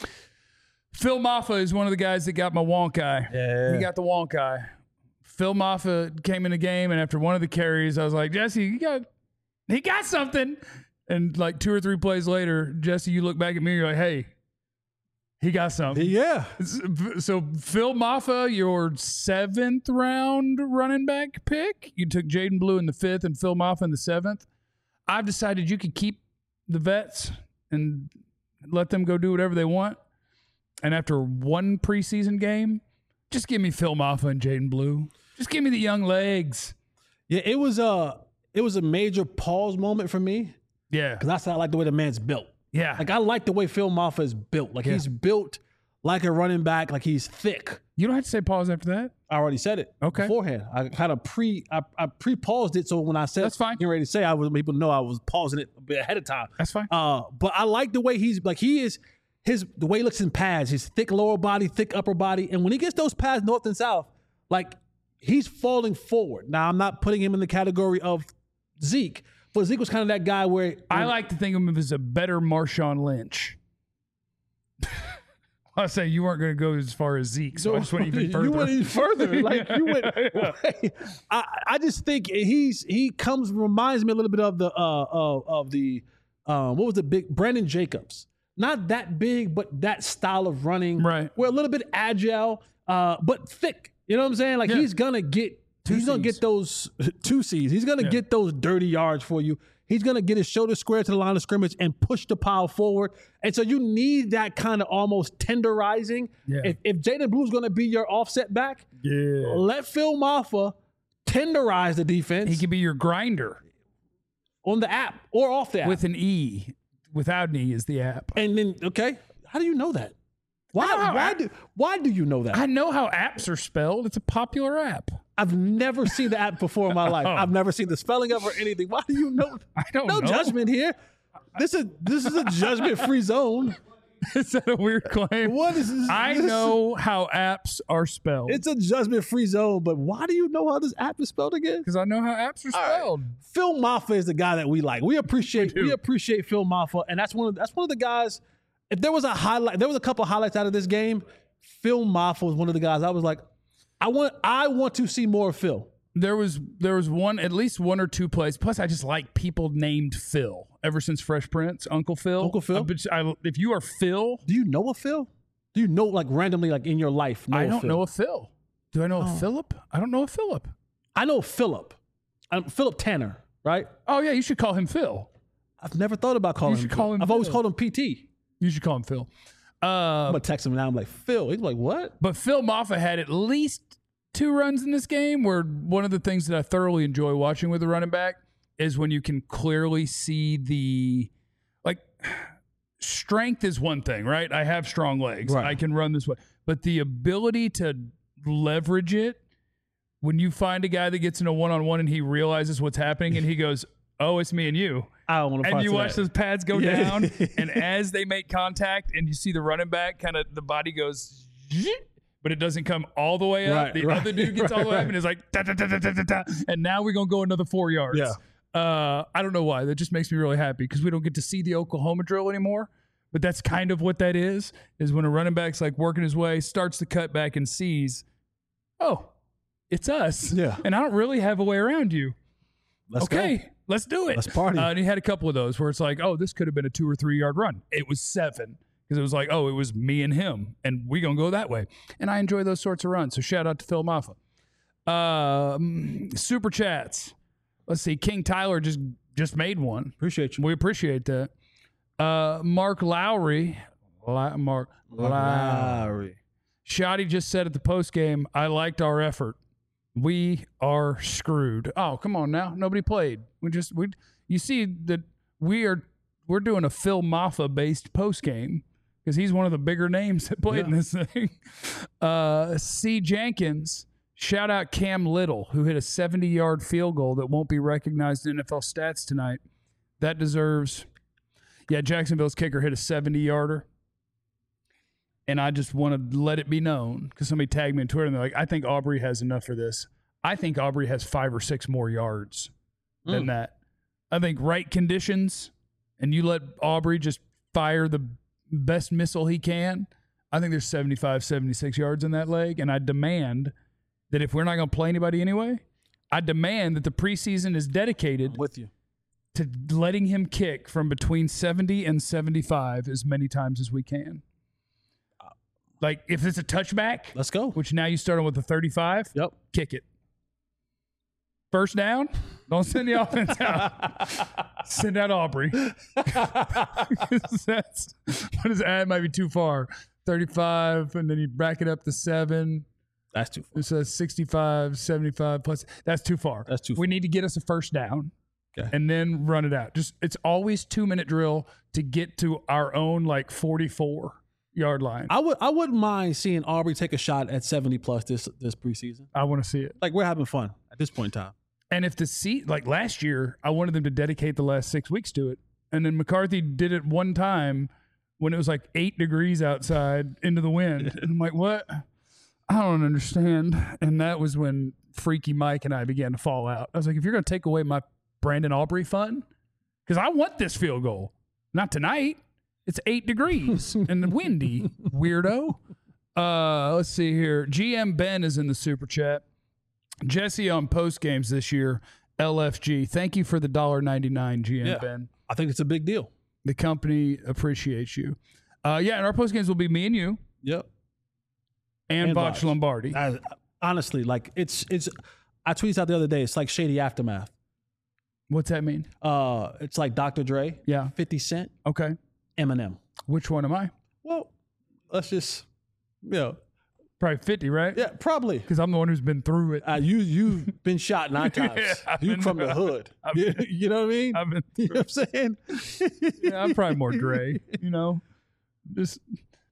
Phil Maffa is one of the guys that got my wonk eye. Yeah. He got the wonk eye. Phil Maffa came in the game, and after one of the carries, I was like, Jesse, you got, he got something. And like two or three plays later, Jesse, you look back at me, you're like, hey, he got something. Yeah. So Phil Maffa, your seventh round running back pick. You took Jaden Blue in the fifth and Phil Maffa in the seventh. I've decided you could keep the vets and let them go do whatever they want. And after one preseason game, just give me Phil Maffa and Jaden Blue. Just give me the young legs. Yeah, it was a it was a major pause moment for me Yeah. because that's how I like the way the man's built. Yeah. Like I like the way Phil Maffa is built. Like Yeah. he's built like a running back. Like he's thick. You don't have to say pause after that. I already said it Okay. beforehand. I kind of pre I, I pre paused it so when I said That's fine. getting ready to say I was people know I was pausing it a bit ahead of time. That's fine. Uh, but I like the way he's like he is his the way he looks in pads. His thick lower body, thick upper body, and when he gets those pads north and south, like he's falling forward. Now I'm not putting him in the category of Zeke, but Zeke was kind of that guy where I like to think of him as a better Marshawn Lynch. I was saying you weren't going to go as far as Zeke, so I just went even further. You went even further. Like you went. I, I just think he's he comes reminds me a little bit of the uh of, of the um what was the big Brandon Jacobs. Not that big, but that style of running. Right. We're a little bit agile, uh, but thick. You know what I'm saying? Like Yeah. he's gonna get Two he's gonna Cs. get those two C's. He's gonna Yeah. get those dirty yards for you. He's gonna get his shoulder square to the line of scrimmage and push the pile forward. And so you need that kind of almost tenderizing. Yeah. If, if Jaden Blue's gonna be your offset back, Yeah. let Phil Maffa tenderize the defense He could be your grinder on the app or off the app. with an E. Without an E is the app. and then okay, how do you know that? Why? I know how why app- do why do you know that? I I, know how apps are spelled. It's a popular app. I've never seen the app before in my life. Oh. I've never seen the spelling of it or anything. Why do you know? I don't no know. judgment here. This is this is a judgment-free zone. Is that a weird claim? What is this? I this- know how apps are spelled. It's a judgment-free zone, but why do you know how this app is spelled again? Because I know how apps are All right. spelled. Phil Maffa is the guy that we like. We appreciate We we, do. appreciate Phil Maffa, and that's one of that's one of the guys. If there was a highlight, there was a couple highlights out of this game. Phil Maffa was one of the guys. I was like, I want I want to see more of Phil. There was there was one at least one or two plays. Plus, I just like people named Phil. Ever since Fresh Prince, Uncle Phil. Uncle Phil? I bet you- I- if you are Phil, Do you know a Phil? Do you know like randomly like in your life? Know I a don't Phil? know a Phil. Do I know a Philip? I don't know a Philip. I know Philip. I'm Philip Tanner, right? Oh yeah, you should call him Phil. I've never thought about calling You him. should call Phil. him I've always Phil. called him P T. You should call him Phil. Uh, I'm gonna text him now. I'm like, Phil. He's like, what? But Phil Maffa had at least two runs in this game where one of the things that I thoroughly enjoy watching with the running back is when you can clearly see the, like, strength is one thing, right? I have strong legs. Right. I can run this way. But the ability to leverage it when you find a guy that gets in a one-on-one and he realizes what's happening and he goes, oh, it's me and you. I don't want to. And you watch those pads go Yeah. down, and as they make contact, and you see the running back, kind of the body goes, but it doesn't come all the way up. Right, the right, other dude gets all the way right, up and is like, da, da, da, da, da, da, da, and now we're gonna go another four yards. Yeah. Uh, I don't know why. That just makes me really happy because we don't get to see the Oklahoma drill anymore. But that's kind of what that is. Is when a running back's like working his way, starts to cut back, and sees, oh, it's us. Yeah. And I don't really have a way around you. Let's okay, go. let's do it. Let's party. Uh, and he had a couple of those where it's like, oh, this could have been a two or three yard run. It was seven because it was like, oh, it was me and him, and we gonna go that way. And I enjoy those sorts of runs. So shout out to Phil Maffa. Um, super chats. Let's see. King Tyler just just made one. Appreciate you. We appreciate that. Uh, Mark Lowry. La- Mark Lowry. Lowry. Shotty just said at the post game, I liked our effort. We are screwed. Oh, come on now. Nobody played. We just we you see that we are we're doing a Phil Maffa based post game because he's one of the bigger names that played in Yeah. this thing. Uh C. Jenkins, shout out Cam Little, who hit a seventy yard field goal that won't be recognized in N F L stats tonight. That deserves yeah, Jacksonville's kicker hit a seventy yarder. And I just want to let it be known because somebody tagged me on Twitter and they're like, I think Aubrey has enough for this. I think Aubrey has five or six more yards than Mm. that. I think right conditions and you let Aubrey just fire the best missile he can. I think there's seventy-five, seventy-six yards in that leg. And I demand that if we're not going to play anybody anyway, I demand that the preseason is dedicated With you. to letting him kick from between seventy and seventy-five as many times as we can. Like, if it's a touchback, Let's go. which now you start on with a thirty-five, Yep. kick it. First down, don't send the offense out. Send out Aubrey. That's, what is that? It might be too far. thirty-five, and then you back it up to seven. That's too far. It says sixty-five, seventy-five plus. That's too far. That's too We need to get us a first down. Okay. And then run it out. Just it's always two minute drill to get to our own like forty-four yard line. I would I wouldn't mind seeing Aubrey take a shot at seventy plus this this preseason. I want to see it. Like we're having fun at this point in time. And if the seat like last year, I wanted them to dedicate the last six weeks to it. And then McCarthy did it one time when it was like eight degrees outside into the wind. And I'm like, what? I don't understand. And that was when Freaky Mike and I began to fall out. I was like, if you're going to take away my Brandon Aubrey fun, because I want this field goal. Not tonight. It's eight degrees and windy, weirdo. Uh, let's see here. G M Ben is in the super chat. Jesse on post games this year, L F G. Thank you for the one dollar ninety-nine, G M Yeah. Ben. I think it's a big deal. The company appreciates you. Uh, yeah, and our post games will be me and you Yep. and, And Botch Botch. Lombardi. I, honestly, like it's it's. I tweeted out the other day. It's like shady aftermath. What's that mean? Uh, it's like Doctor Dre, Yeah. Fifty Cent, Okay. Eminem. Which one am I? Well, let's just, you know, Probably fifty, right? yeah, probably. Because I'm the one who's been through it. Uh, you you've been shot nine times. Yeah, I've you been- from the hood. I've You, been- you know what I mean? I've been You through know what I'm saying? Yeah, I'm probably more Dre, you know? Just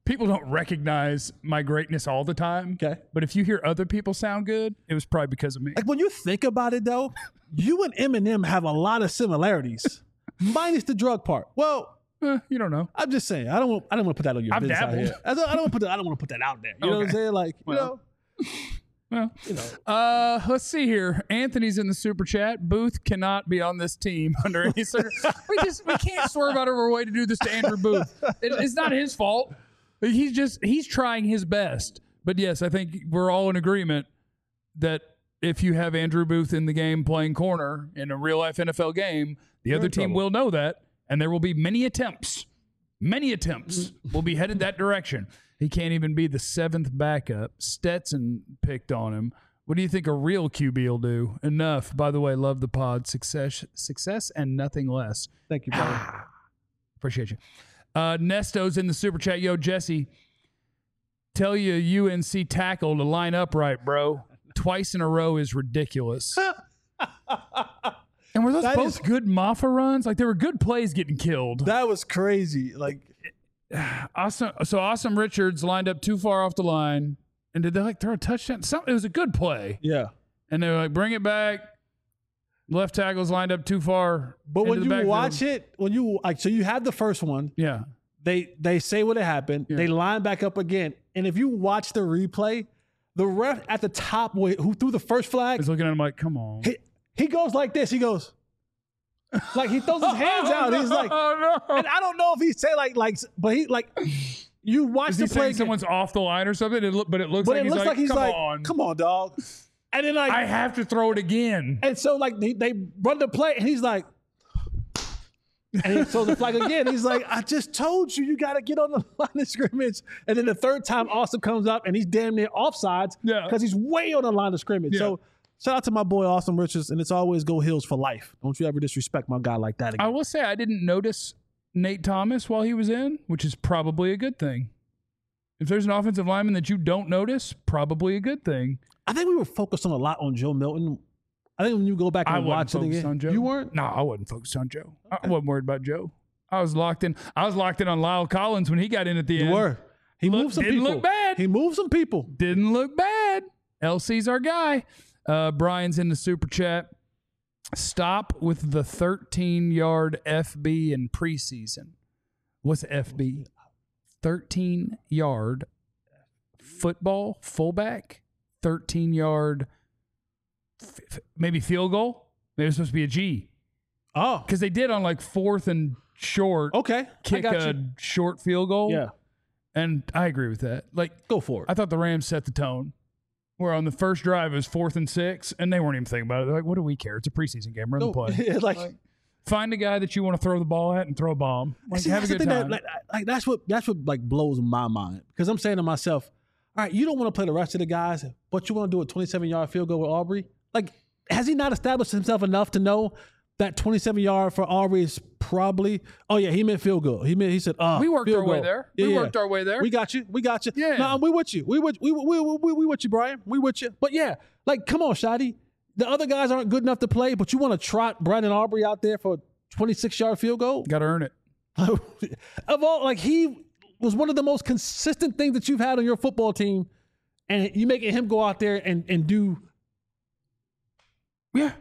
people don't recognize my greatness all the time. Okay. But if you hear other people sound good, it was probably because of me. Like when you think about it, though, you and Eminem have a lot of similarities, minus the drug part. Well, Eh, you don't know. I'm just saying. I don't want. I don't want to put that on your I've business out dabbled. here. I don't, I don't want to put. That, I don't want to put that out there. You know what I'm Okay. saying? Like, Well. you know. Well, You know. uh, let's see here. Anthony's in the super chat. Booth cannot be on this team under any circumstances. we just we can't swerve out of our way to do this to Andrew Booth. It, it's not his fault. He's just he's trying his best. But yes, I think we're all in agreement that if you have Andrew Booth in the game playing corner in a real life N F L game, the You're other in team trouble. will know that, and there will be many attempts. Many attempts will be headed that direction. He can't even be the seventh backup. Stetson picked on him. What do you think a real Q B will do? Enough. By the way, love the pod. Success, success, and nothing less. Thank you, brother. Appreciate you. Uh, Nesto's in the super chat. Yo, Jesse, tell you U N C tackle to line up right, bro. Twice in a row is ridiculous. And were those That both is- good Maffa runs? Like, there were good plays getting killed. That was crazy. Like, Awesome. So Awesome Richards lined up too far off the line, and did they like throw a touchdown? Some, it was a good play, yeah. and they were like, "Bring it back." Left tackle's lined up too far. But into when the you backfield. watch it, when you like, so you have the first one. yeah, They they say what happened. Yeah. They line back up again, and if you watch the replay, the ref at the top where- who threw the first I flag, was looking at him like, "Come on." he, he goes like this. He goes like he throws his hands out. He's like, "Oh no!" and I don't know if he say like like, but he like you watch Is the he play, saying again, someone's off the line or something? It look, but it looks but like it he's looks like, like he's "Come like, on, come on, dog." And then like, I have to throw it again." and so like they, they run the play, and he's like, and he throws the flag again. He's like, I just told you, you got to get on the line of scrimmage. And then the third time, Austin comes up, and he's damn near offsides Yeah. because he's way on the line of scrimmage. Yeah. So shout out to my boy Austin Richards, and it's always go Hills for life. Don't you ever disrespect my guy like that again. I will say I didn't notice Nate Thomas while he was in, which is probably a good thing. If there's an offensive lineman that you don't notice, probably a good thing. I think we were focused on a lot on Joe Milton. I think when you go back and I watch wasn't it focused again, on Joe. you weren't. No, I wasn't focused on Joe. I wasn't worried about Joe. I was locked in. I was locked in on Lyle Collins when he got in at the You end. were. He Look- moved some didn't people. look bad. He moved some people. Didn't look bad. L C's our guy. Uh, Brian's in the super chat. Stop with the thirteen-yard F B in preseason. What's F B? thirteen-yard football fullback. thirteen-yard f- f- maybe field goal. Maybe it was supposed to be a G. Oh, Because they did on like fourth and short okay. I kick got a you. short field goal. Yeah, And I agree with that. Like, go for it. I thought the Rams set the tone. Where on the first drive it was fourth and six, and they weren't even thinking about it. They're like, what do we care? It's a preseason game. Run the No, play. like, Find a guy that you want to throw the ball at and throw a bomb. Like, see, have a that's the good thing time. That, like, like, that's what that's what like blows my mind because I'm saying to myself, all right, you don't want to play the rest of the guys, but you want to do a twenty-seven yard field goal with Aubrey. Like, has he not established himself enough to know that twenty-seven yard for Aubrey is probably? Oh yeah, he meant field goal. He meant he said, uh, we worked field our way goal. there. Yeah, we yeah. worked our way there. We got you. We got you. Yeah. No, we with you. We with we we we, we, we with you, Brian. We with you. But yeah, like, come on, Shotty. The other guys aren't good enough to play, but you want to trot Brandon Aubrey out there for a twenty-six yard field goal? Got to earn it. Of all, like, he was one of the most consistent things that you've had on your football team, and you making him go out there and and do. Yeah.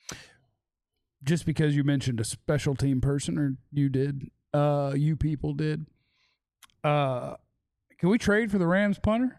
Just because you mentioned a special team person, or you did, uh, you people did. Uh, can we trade for the Rams punter?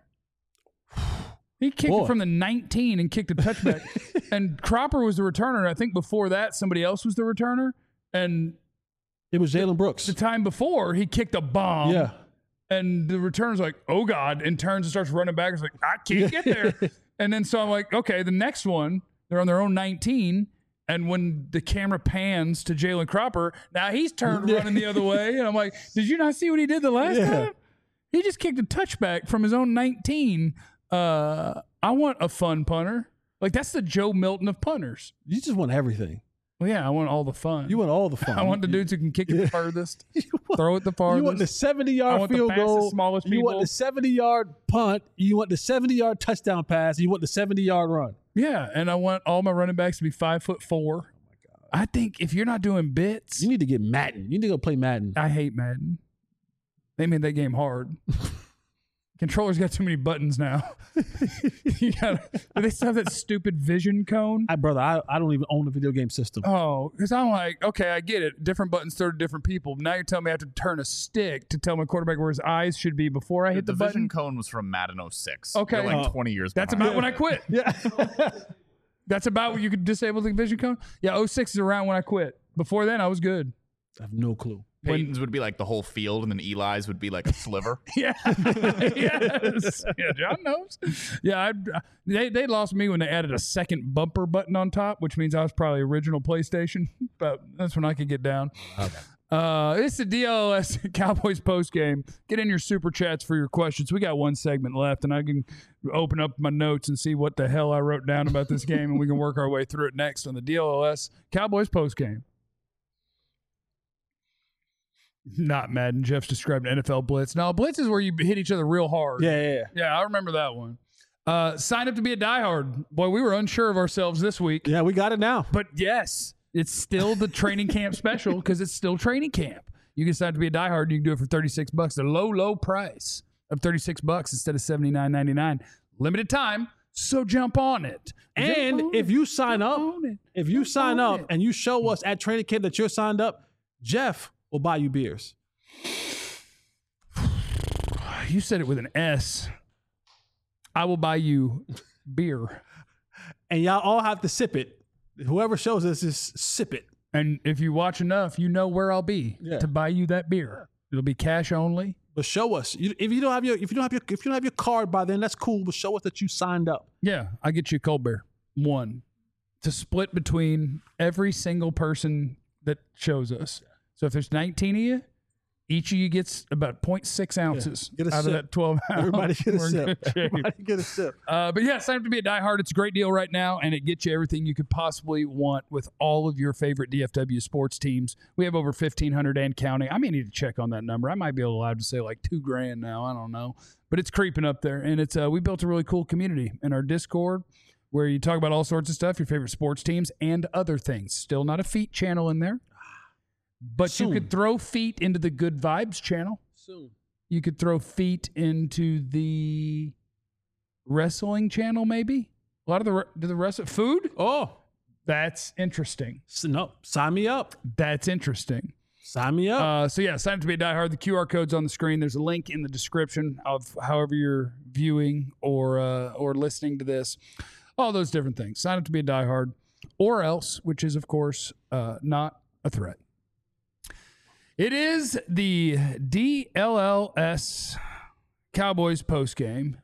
He kicked Boy. it from the nineteen and kicked a touchback. And Cropper was the returner. I think before that, somebody else was the returner. And It was Jalen Brooks. the time before, he kicked a bomb. Yeah. And the returner's like, oh, God, and turns and starts running back. It's like, I can't get there. And then so I'm like, okay, the next one, they're on their own nineteen. And when the camera pans to Jalen Cropper, now he's turned Yeah. running the other way. And I'm like, did you not see what he did the last Yeah. time? He just kicked a touchback from his own nineteen. Uh, I want a fun punter. Like, that's the Joe Milton of punters. You just want everything. Well, yeah, I want all the fun. You want all the fun. I want the You- dudes who can kick it the furthest, you want- throw it the You farthest. want the seventy I yard want the field fastest, goal. smallest You want people. the seventy yard punt. You want the seventy yard touchdown pass. You want the seventy yard run. Yeah, and I want all my running backs to be five foot four. Oh my god! I think if you're not doing bits, You need to get Madden. You need to go play Madden. I hate Madden. They made that game hard. Controller's got too many buttons now. you gotta, do they still have that stupid vision cone? I, brother, I, I don't even own a video game system. Oh, because I'm like, okay, I get it. Different buttons throw to different people. Now you're telling me I have to turn a stick to tell my quarterback where his eyes should be before I hit the, the button? vision cone was from Madden oh six. Okay. You're like Oh. twenty years That's behind. about when I quit. Yeah. That's about when you could disable the vision cone? Yeah, oh six is around when I quit. Before then, I was good. I have no clue. Peyton's would be like the whole field, and then Eli's would be like a sliver. Yeah. Yes. Yeah, John knows. Yeah, I, they they lost me when they added a second bumper button on top, which means I was probably original PlayStation, but that's when I could get down. Okay. Uh, it's the D L S Cowboys post game. Get in your super chats for your questions. We got one segment left, and I can open up my notes and see what the hell I wrote down about this game, and we can work our way through it next on the D L S Cowboys post game. Not Madden. Jeff's described N F L Blitz. No, Blitz is where you hit each other real hard. Yeah, yeah, yeah. Yeah, I remember that one. Uh, sign up to be a diehard. Boy, we were unsure of ourselves this week. Yeah, we got it now. But yes, it's still the training camp special because it's still training camp. You can sign up to be a diehard. You can do it for thirty-six bucks. The low, low price of thirty-six bucks instead of seventy-nine ninety-nine. Limited time, so jump on it. And Jump on if it. you sign Jump up, on it. if you Jump sign on up it. and you show us at training camp that you're signed up, Jeff will buy you beers. You said it with an S. I will buy you beer. And y'all all have to sip it. Whoever shows us is sip it. And if you watch enough, you know where I'll be Yeah. to buy you that beer. It'll be cash only. But show us. You, if you don't have your if you don't have your if you don't have your card by then, that's cool. But show us that you signed up. Yeah, I get you a cold beer. One. To split between every single person that shows us. So if there's nineteen of you, each of you gets about zero point six ounces Get a out sip. of that twelve ounce. Everybody get a We're in sip. good shape. Everybody get a sip. Uh, but yeah, sign up to be a diehard. It's a great deal right now, and it gets you everything you could possibly want with all of your favorite D F W sports teams. We have over fifteen hundred and counting. I may need to check on that number. I might be allowed to say like two grand now. I don't know, but it's creeping up there, and it's uh, we built a really cool community in our Discord where you talk about all sorts of stuff, your favorite sports teams and other things. Still not a feet channel in there, but Soon. you could throw feet into the Good Vibes channel. Soon. You could throw feet into the wrestling channel, maybe. A lot of the do the rest food. Oh, That's interesting. so no, sign me up. That's interesting. Sign me up. Uh, so yeah, sign up to be a diehard. The Q R code's on the screen. There's a link in the description of however you're viewing or uh, or listening to this. All those different things. Sign up to be a diehard, or else, which is of course uh, not a threat. It is the D L L S Cowboys postgame.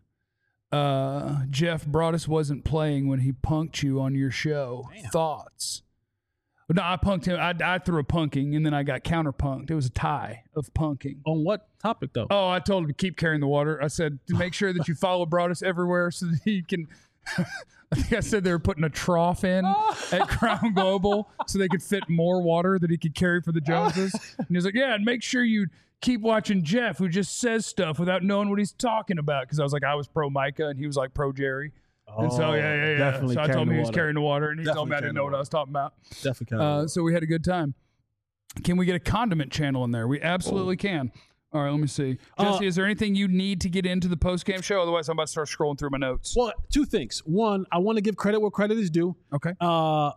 Uh, Jeff Broadus wasn't playing when he punked you on your show. Damn. Thoughts? No, I punked him. I, I threw a punking, and then I got counter-punked. It was a tie of punking. On what topic though? Oh, I told him to keep carrying the water. I said to make sure that you follow Broadus everywhere so that he can. I think I said they were putting a trough in at Crown Global so they could fit more water that he could carry for the Joneses. And he was like, yeah, and make sure you keep watching Jeff, who just says stuff without knowing what he's talking about. Because I was like, I was pro Micah, and he was like pro Jerry. and so, yeah, yeah, yeah. Definitely So I carrying told him the he was water. carrying the water, and he told me I Definitely didn't know carrying what the I was talking about. Definitely carrying the Uh, water. so we had a good time. Can we get a condiment channel in there? We absolutely can. All right, let me see. Jesse, Uh, is there anything you need to get into the post-game show? Otherwise, I'm about to start scrolling through my notes. Well, two things. One, I want to give credit where credit is due. Okay. Uh,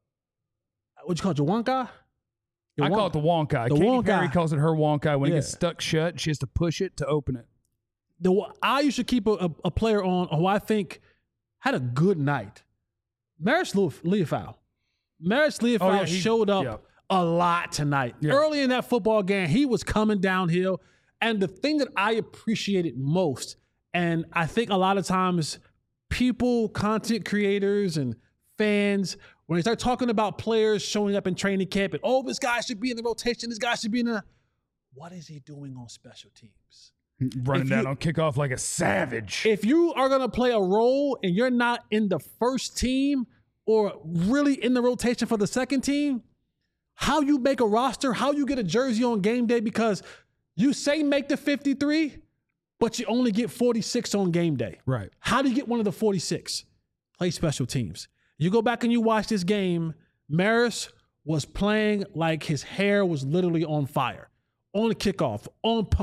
what you call it, Jawanka? I call it the Wonkai. The Katy Wonkai. Perry calls it her Wonkai. When it Yeah. gets stuck shut, she has to push it to open it. The I used to keep a, a, a player on who I think had a good night. Maris Leofau. Maris Leofau Oh, yeah, he- showed up yeah. a lot tonight. Yeah. Early in that football game, he was coming downhill. And the thing that I appreciated most, and I think a lot of times people, content creators and fans, when they start talking about players showing up in training camp and, oh, this guy should be in the rotation, this guy should be in the, what is he doing on special teams? Running If down you- on kickoff like a savage. If you are going to play a role and you're not in the first team or really in the rotation for the second team, how you make a roster, how you get a jersey on game day, because you say make the fifty-three, but you only get forty-six on game day. Right. How do you get one of the forty-six? Play special teams. You go back and you watch this game, Maris was playing like his hair was literally on fire. On the kickoff, on punt,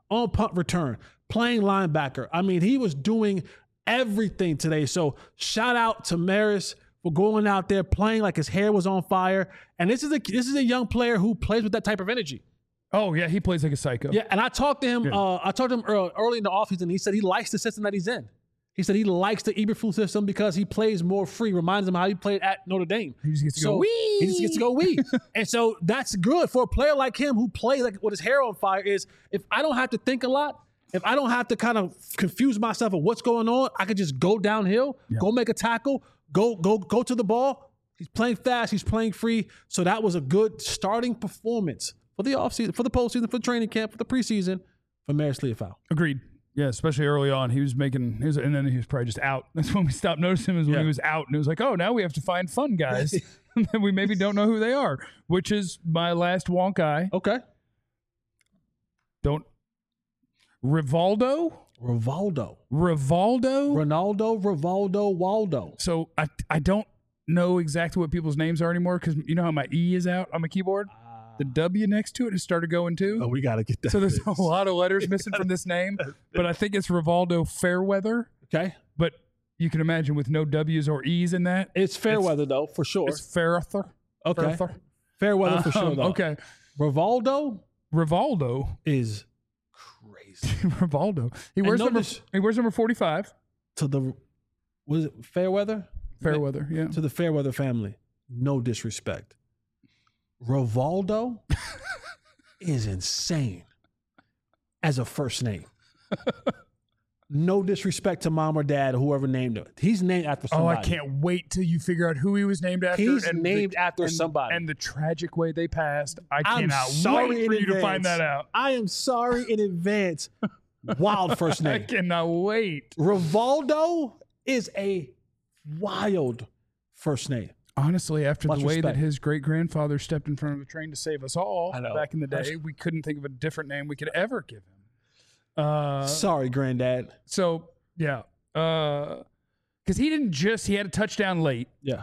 on punt return, playing linebacker. I mean, he was doing everything today. So shout out to Maris for going out there playing like his hair was on fire. And this is a this is a young player who plays with that type of energy. Oh yeah, he plays like a psycho. Yeah, and I talked to him. Yeah. Uh, I talked to him early, early in the offseason. He said he likes the system that he's in. He said he likes the Eberflus system because he plays more free. Reminds him how he played at Notre Dame. He just gets to So go wee. He just gets to go wee. And so that's good for a player like him who plays like with his hair on fire. Is if I don't have to think a lot, if I don't have to kind of confuse myself of what's going on, I could just go downhill, Yeah. go make a tackle, go go go to the ball. He's playing fast. He's playing free. So that was a good starting performance for the offseason, for the postseason, for the training camp, for the preseason for Maris Liufau. Agreed. Yeah, especially early on, he was making, he was, and then he was probably just out. That's when we stopped noticing him, is when Yeah. he was out, and it was like, oh, now we have to find fun guys that we maybe don't know who they are, which is my last wonk eye. Okay. Don't Rivaldo, Rivaldo. Rivaldo. Ronaldo, Rivaldo, Waldo. So I I don't know exactly what people's names are anymore because you know how my E is out on my keyboard. The W next to it has started going too. Oh, we got to get that. So there's a fixed. lot of letters missing from this name, but I think it's Rivaldo Fairweather. Okay. But you can imagine with no W's or E's in that, It's Fairweather, though, for sure. it's Fairweather. Okay. Fairweather. Fairweather for sure, Um, though. Okay. Rivaldo Rivaldo. is crazy. Rivaldo. He wears number. notice- He wears number forty-five. To the, was it Fairweather? Fairweather. Yeah. To the Fairweather family. No disrespect. Rivaldo is insane as a first name. No disrespect to mom or dad or whoever named him. He's named after Oh, somebody. I can't wait till you figure out who he was named after. He's and named the, after and, somebody. And the tragic way they passed. I I'm cannot sorry wait in for you to advance. find that out. I am sorry in advance. Wild first I name. cannot wait. Rivaldo is a wild first name. Honestly, after Much the way respect. that his great grandfather stepped in front of the train to save us all I know. back in the day, we couldn't think of a different name we could ever give him. Uh, Sorry, granddad. so yeah, because he didn't just he had a touchdown late, Yeah.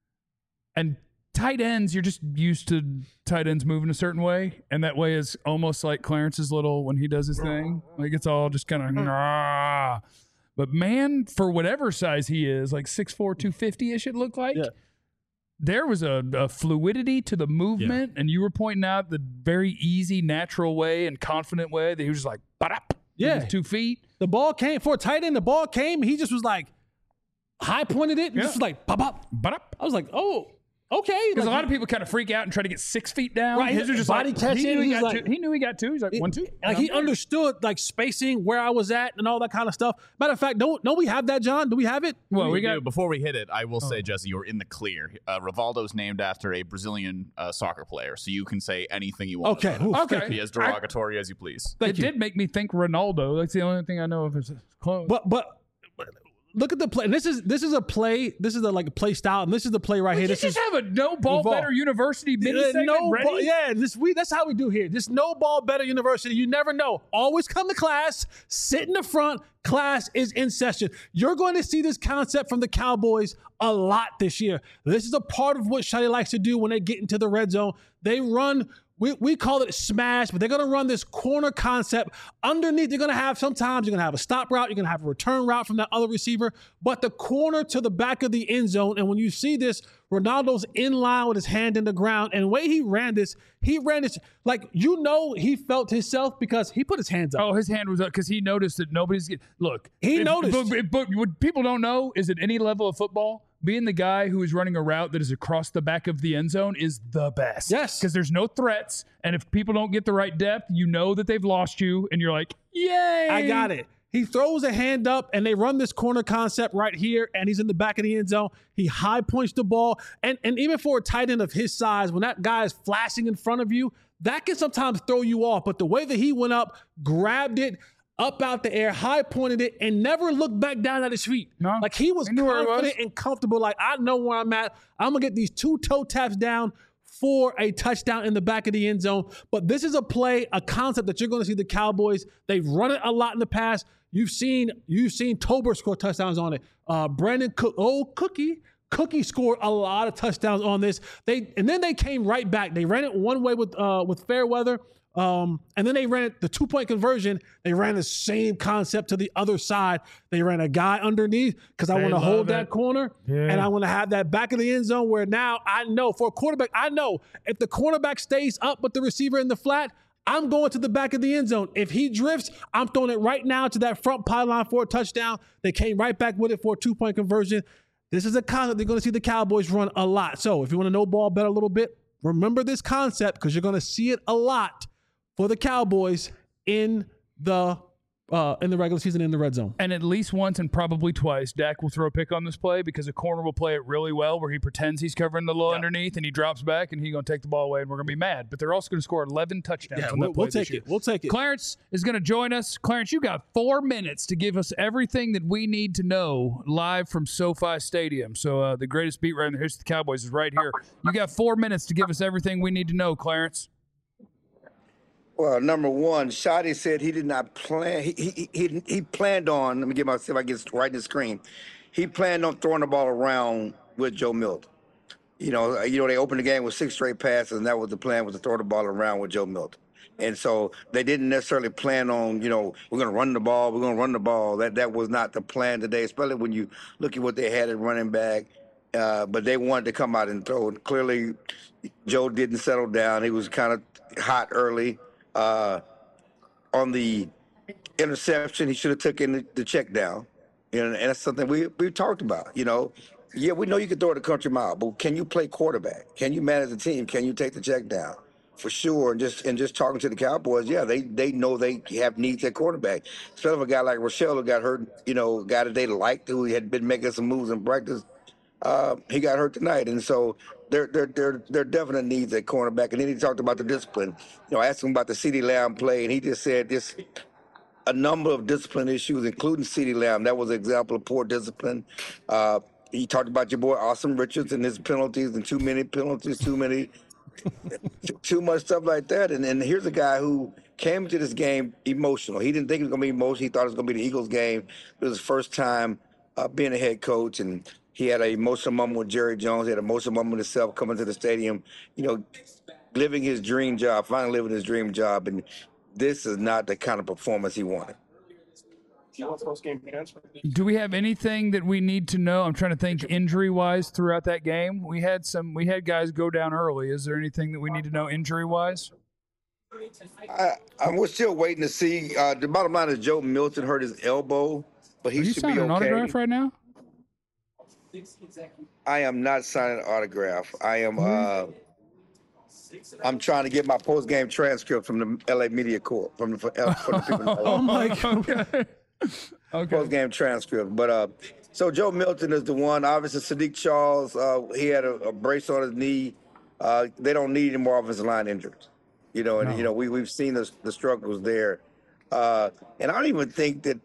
and tight ends you're just used to tight ends moving a certain way, and that way is almost like Clarence's little when he does his thing, like it's all just kind of. Ah. But man, for whatever size he is, like six four, two fifty ish, it looked like. Yeah. There was a, a fluidity to the movement, and you were pointing out the very easy, natural way and confident way that he was just like, "Ba-dap," with Yeah. his two feet. The ball came for a tight end. The ball came. He just was like high pointed it. And Yeah. just was like pop up. Ba-dap. I was like, oh, okay. Because Like, a lot of people kind of freak out and try to get six feet down. Right, His are just body like, catching, He knew he, he's got like- two. He knew he got two. He's like, one, two. like and he I'm there. understood like spacing where I was at and all that kind of stuff. Matter of fact, don't don't we have that, John? Do we have it? Well, we We got. do. Before we hit it, I will Oh. say, Jesse, you're in the clear. Uh, Rivaldo's named after a Brazilian uh, soccer player, so you can say anything you want. Okay. about him. Oof, Okay. Be as derogatory as you please. Thank It you. did make me think Ronaldo. That's the only thing I know of his clone. But but but look at the play. And this is this is a play. This is a like a play style, and this is the play right Did here. you This just is have a no ball Revolve. better university mini Uh, segment no ready? ball, yeah, this we that's how we do here. Just no ball better university. You never know. Always come to class, sit in the front. Class is in session. You're going to see this concept from the Cowboys a lot this year. This is a part of what Shotty likes to do when they get into the red zone. They run. We, we call it smash, but they're going to run this corner concept. Underneath, they're going to have sometimes you're going to have a stop route, you're going to have a return route from that other receiver, but the corner to the back of the end zone. And when you see this, Ronaldo's in line with his hand in the ground. And the way he ran this, he ran this like, you know, he felt himself because he put his hands up. Oh, his hand was up because he noticed that nobody's get. Look, He if- noticed. But, but what people don't know is at any level of football, being the guy who is running a route that is across the back of the end zone is the best. Yes. Because there's no threats. And if people don't get the right depth, you know that they've lost you. And you're like, yay. I got it. He throws a hand up and they run this corner concept right here, and he's in the back of the end zone. He high points the ball. And, and even for a tight end of his size, when that guy is flashing in front of you, that can sometimes throw you off. But the way that he went up, grabbed it, up out the air, high pointed it, and never looked back down at his feet. No. Like he was He knew where he confident was. and comfortable. Like, I know where I'm at. I'm going to get these two toe taps down for a touchdown in the back of the end zone. But this is a play, a concept that you're going to see the Cowboys. They've run it a lot in the past. You've seen you've seen Tober score touchdowns on it. Uh, Brandon Cook, oh Cookie, Cookie scored a lot of touchdowns on this. They and then they came right back. They ran it one way with uh, with Fairweather. Um, and then they ran the two-point conversion. They ran the same concept to the other side. They ran a guy underneath because I They want to love hold it. that corner. Yeah. And I want to have that back of the end zone where now I know for a quarterback, I know if the cornerback stays up with the receiver in the flat, I'm going to the back of the end zone. If he drifts, I'm throwing it right now to that front pylon for a touchdown. They came right back with it for a two-point conversion. This is a concept they're going to see the Cowboys run a lot. So if you want to know ball better a little bit, remember this concept because you're going to see it a lot for the Cowboys in the uh, in the regular season in the red zone. And at least once and probably twice, Dak will throw a pick on this play because a corner will play it really well where he pretends he's covering the low Yeah. underneath and he drops back and he's going to take the ball away and we're going to be mad. But they're also going to score eleven touchdowns Yeah, on we'll, that play we'll this take year. it. We'll take it. Clarence is going to join us. Clarence, you got four minutes to give us everything that we need to know live from SoFi Stadium. So uh, the greatest beat writer in the history of the Cowboys is right here. You got four minutes to give us everything we need to know, Clarence. Well, number one, Shotty said he did not plan. He he he, he planned on. Let me get myself. I get right in the screen. He planned on throwing the ball around with Joe Milton. You know, you know they opened the game with six straight passes, and that was the plan, was to throw the ball around with Joe Milton. And so they didn't necessarily plan on, you know, we're going to run the ball, we're going to run the ball. That that was not the plan today, especially when you look at what they had at running back. Uh, but they wanted to come out and throw. And clearly, Joe didn't settle down. He was kind of hot early. Uh, on the interception, he should have taken the, the check down. You know, and that's something we we talked about. You know, yeah, we know you can throw it a country mile, but can you play quarterback? Can you manage the team? Can you take the check down? For sure. And just and just talking to the Cowboys, yeah, they they know they have needs at quarterback. Especially a guy like Rochelle who got hurt. You know, a guy that they liked who had been making some moves in practice. Uh, he got hurt tonight, and so there, there, there, there are definite needs at cornerback. And then he talked about the discipline. You know, I asked him about the CeeDee Lamb play, and he just said this a number of discipline issues, including CeeDee Lamb. That was an example of poor discipline. Uh, he talked about your boy Austin Richards and his penalties and too many penalties, too many, too much stuff like that. And and here's a guy who came into this game emotional. He didn't think it was going to be emotional. He thought it was going to be the Eagles game. It was his first time uh, being a head coach, and he had an emotional moment with Jerry Jones. He had an emotional moment with himself coming to the stadium, you know, living his dream job, finally living his dream job. And this is not the kind of performance he wanted. Do we have anything that we need to know? I'm trying to think injury-wise throughout that game. We had some. We had guys go down early. Is there anything that we need to know injury-wise? I, I we're still waiting to see. Uh, the bottom line is Joe Milton hurt his elbow, but he Are you should be signing an okay. autograph right now? I am not signing an autograph. I am. Uh, I'm trying to get my post-game transcript from the L A Media Corps, from the, from the people. Oh, my God. Okay. Okay. Post-game transcript. But uh, so Joe Milton is the one. Obviously, Sadiq Charles, uh, he had a, a brace on his knee. Uh, they don't need any more offensive line injuries. You know, and No. you know we we've seen the the struggles there. Uh, and I don't even think that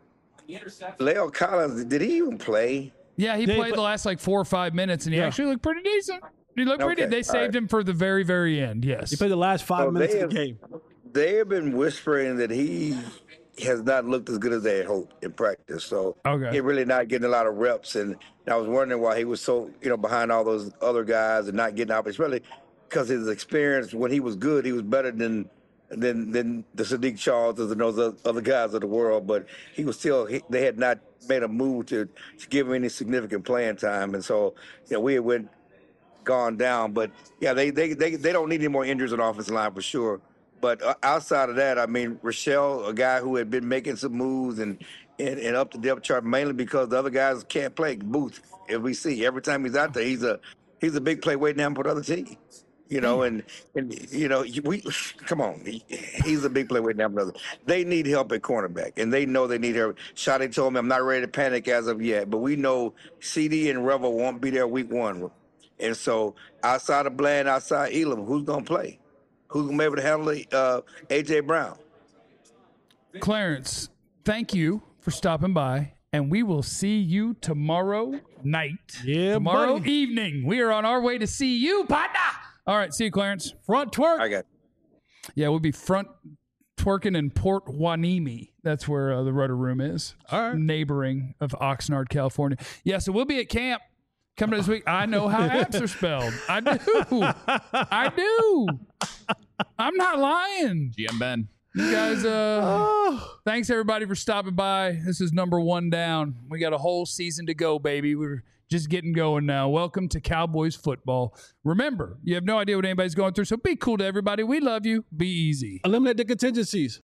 La'el Collins, did he even play? Yeah, he They played play- the last like four or five minutes, and he Yeah. actually looked pretty decent. He looked pretty. Okay, They all saved right. him for the very, very end. Yes. He played the last five So minutes they of the have- game. They have been whispering that he has not looked as good as they had hoped in practice. So Okay. he's really not getting a lot of reps. And I was wondering why he was so, you know, behind all those other guys and not getting opportunities. Really, because his experience when he was good, he was better than than than the Sadiq Charleses and those other guys of the world. But he was still, he, they had not made a move to, to give him any significant playing time. And so, you know, we had went gone down. But yeah, they they they, they don't need any more injuries on the offensive line for sure. But uh, outside of that, I mean, Rochelle, a guy who had been making some moves and, and, and up the depth chart, mainly because the other guys can't play. Booth, if we see every time he's out there, he's a he's a big play waiting to happen for the other team. You know, and and you know, we come on, he, he's a big play waiting to happen for the other. They need help at cornerback, and they know they need help. Shotty told me I'm not ready to panic as of yet, but we know C D and Revel won't be there week one, and so outside of Bland, outside Elam, who's gonna play? Who's going to be able to handle uh, A J. Brown? Clarence, thank you for stopping by, and we will see you tomorrow night. Yeah, tomorrow buddy. evening. We are on our way to see you, partner. All right, see you, Clarence. Front twerk. I got Yeah, we'll be front twerking in Port Hueneme. That's where uh, the Rudder Room is. All right. Neighboring of Oxnard, California. Yeah, so we'll be at camp coming this week. I know how apps are spelled. I do. I do. I'm not lying. G M Ben. You guys, uh, Oh. thanks everybody for stopping by. This is number one down. We got a whole season to go, baby. We're just getting going now. Welcome to Cowboys football. Remember, you have no idea what anybody's going through, so be cool to everybody. We love you. Be easy. Eliminate the contingencies.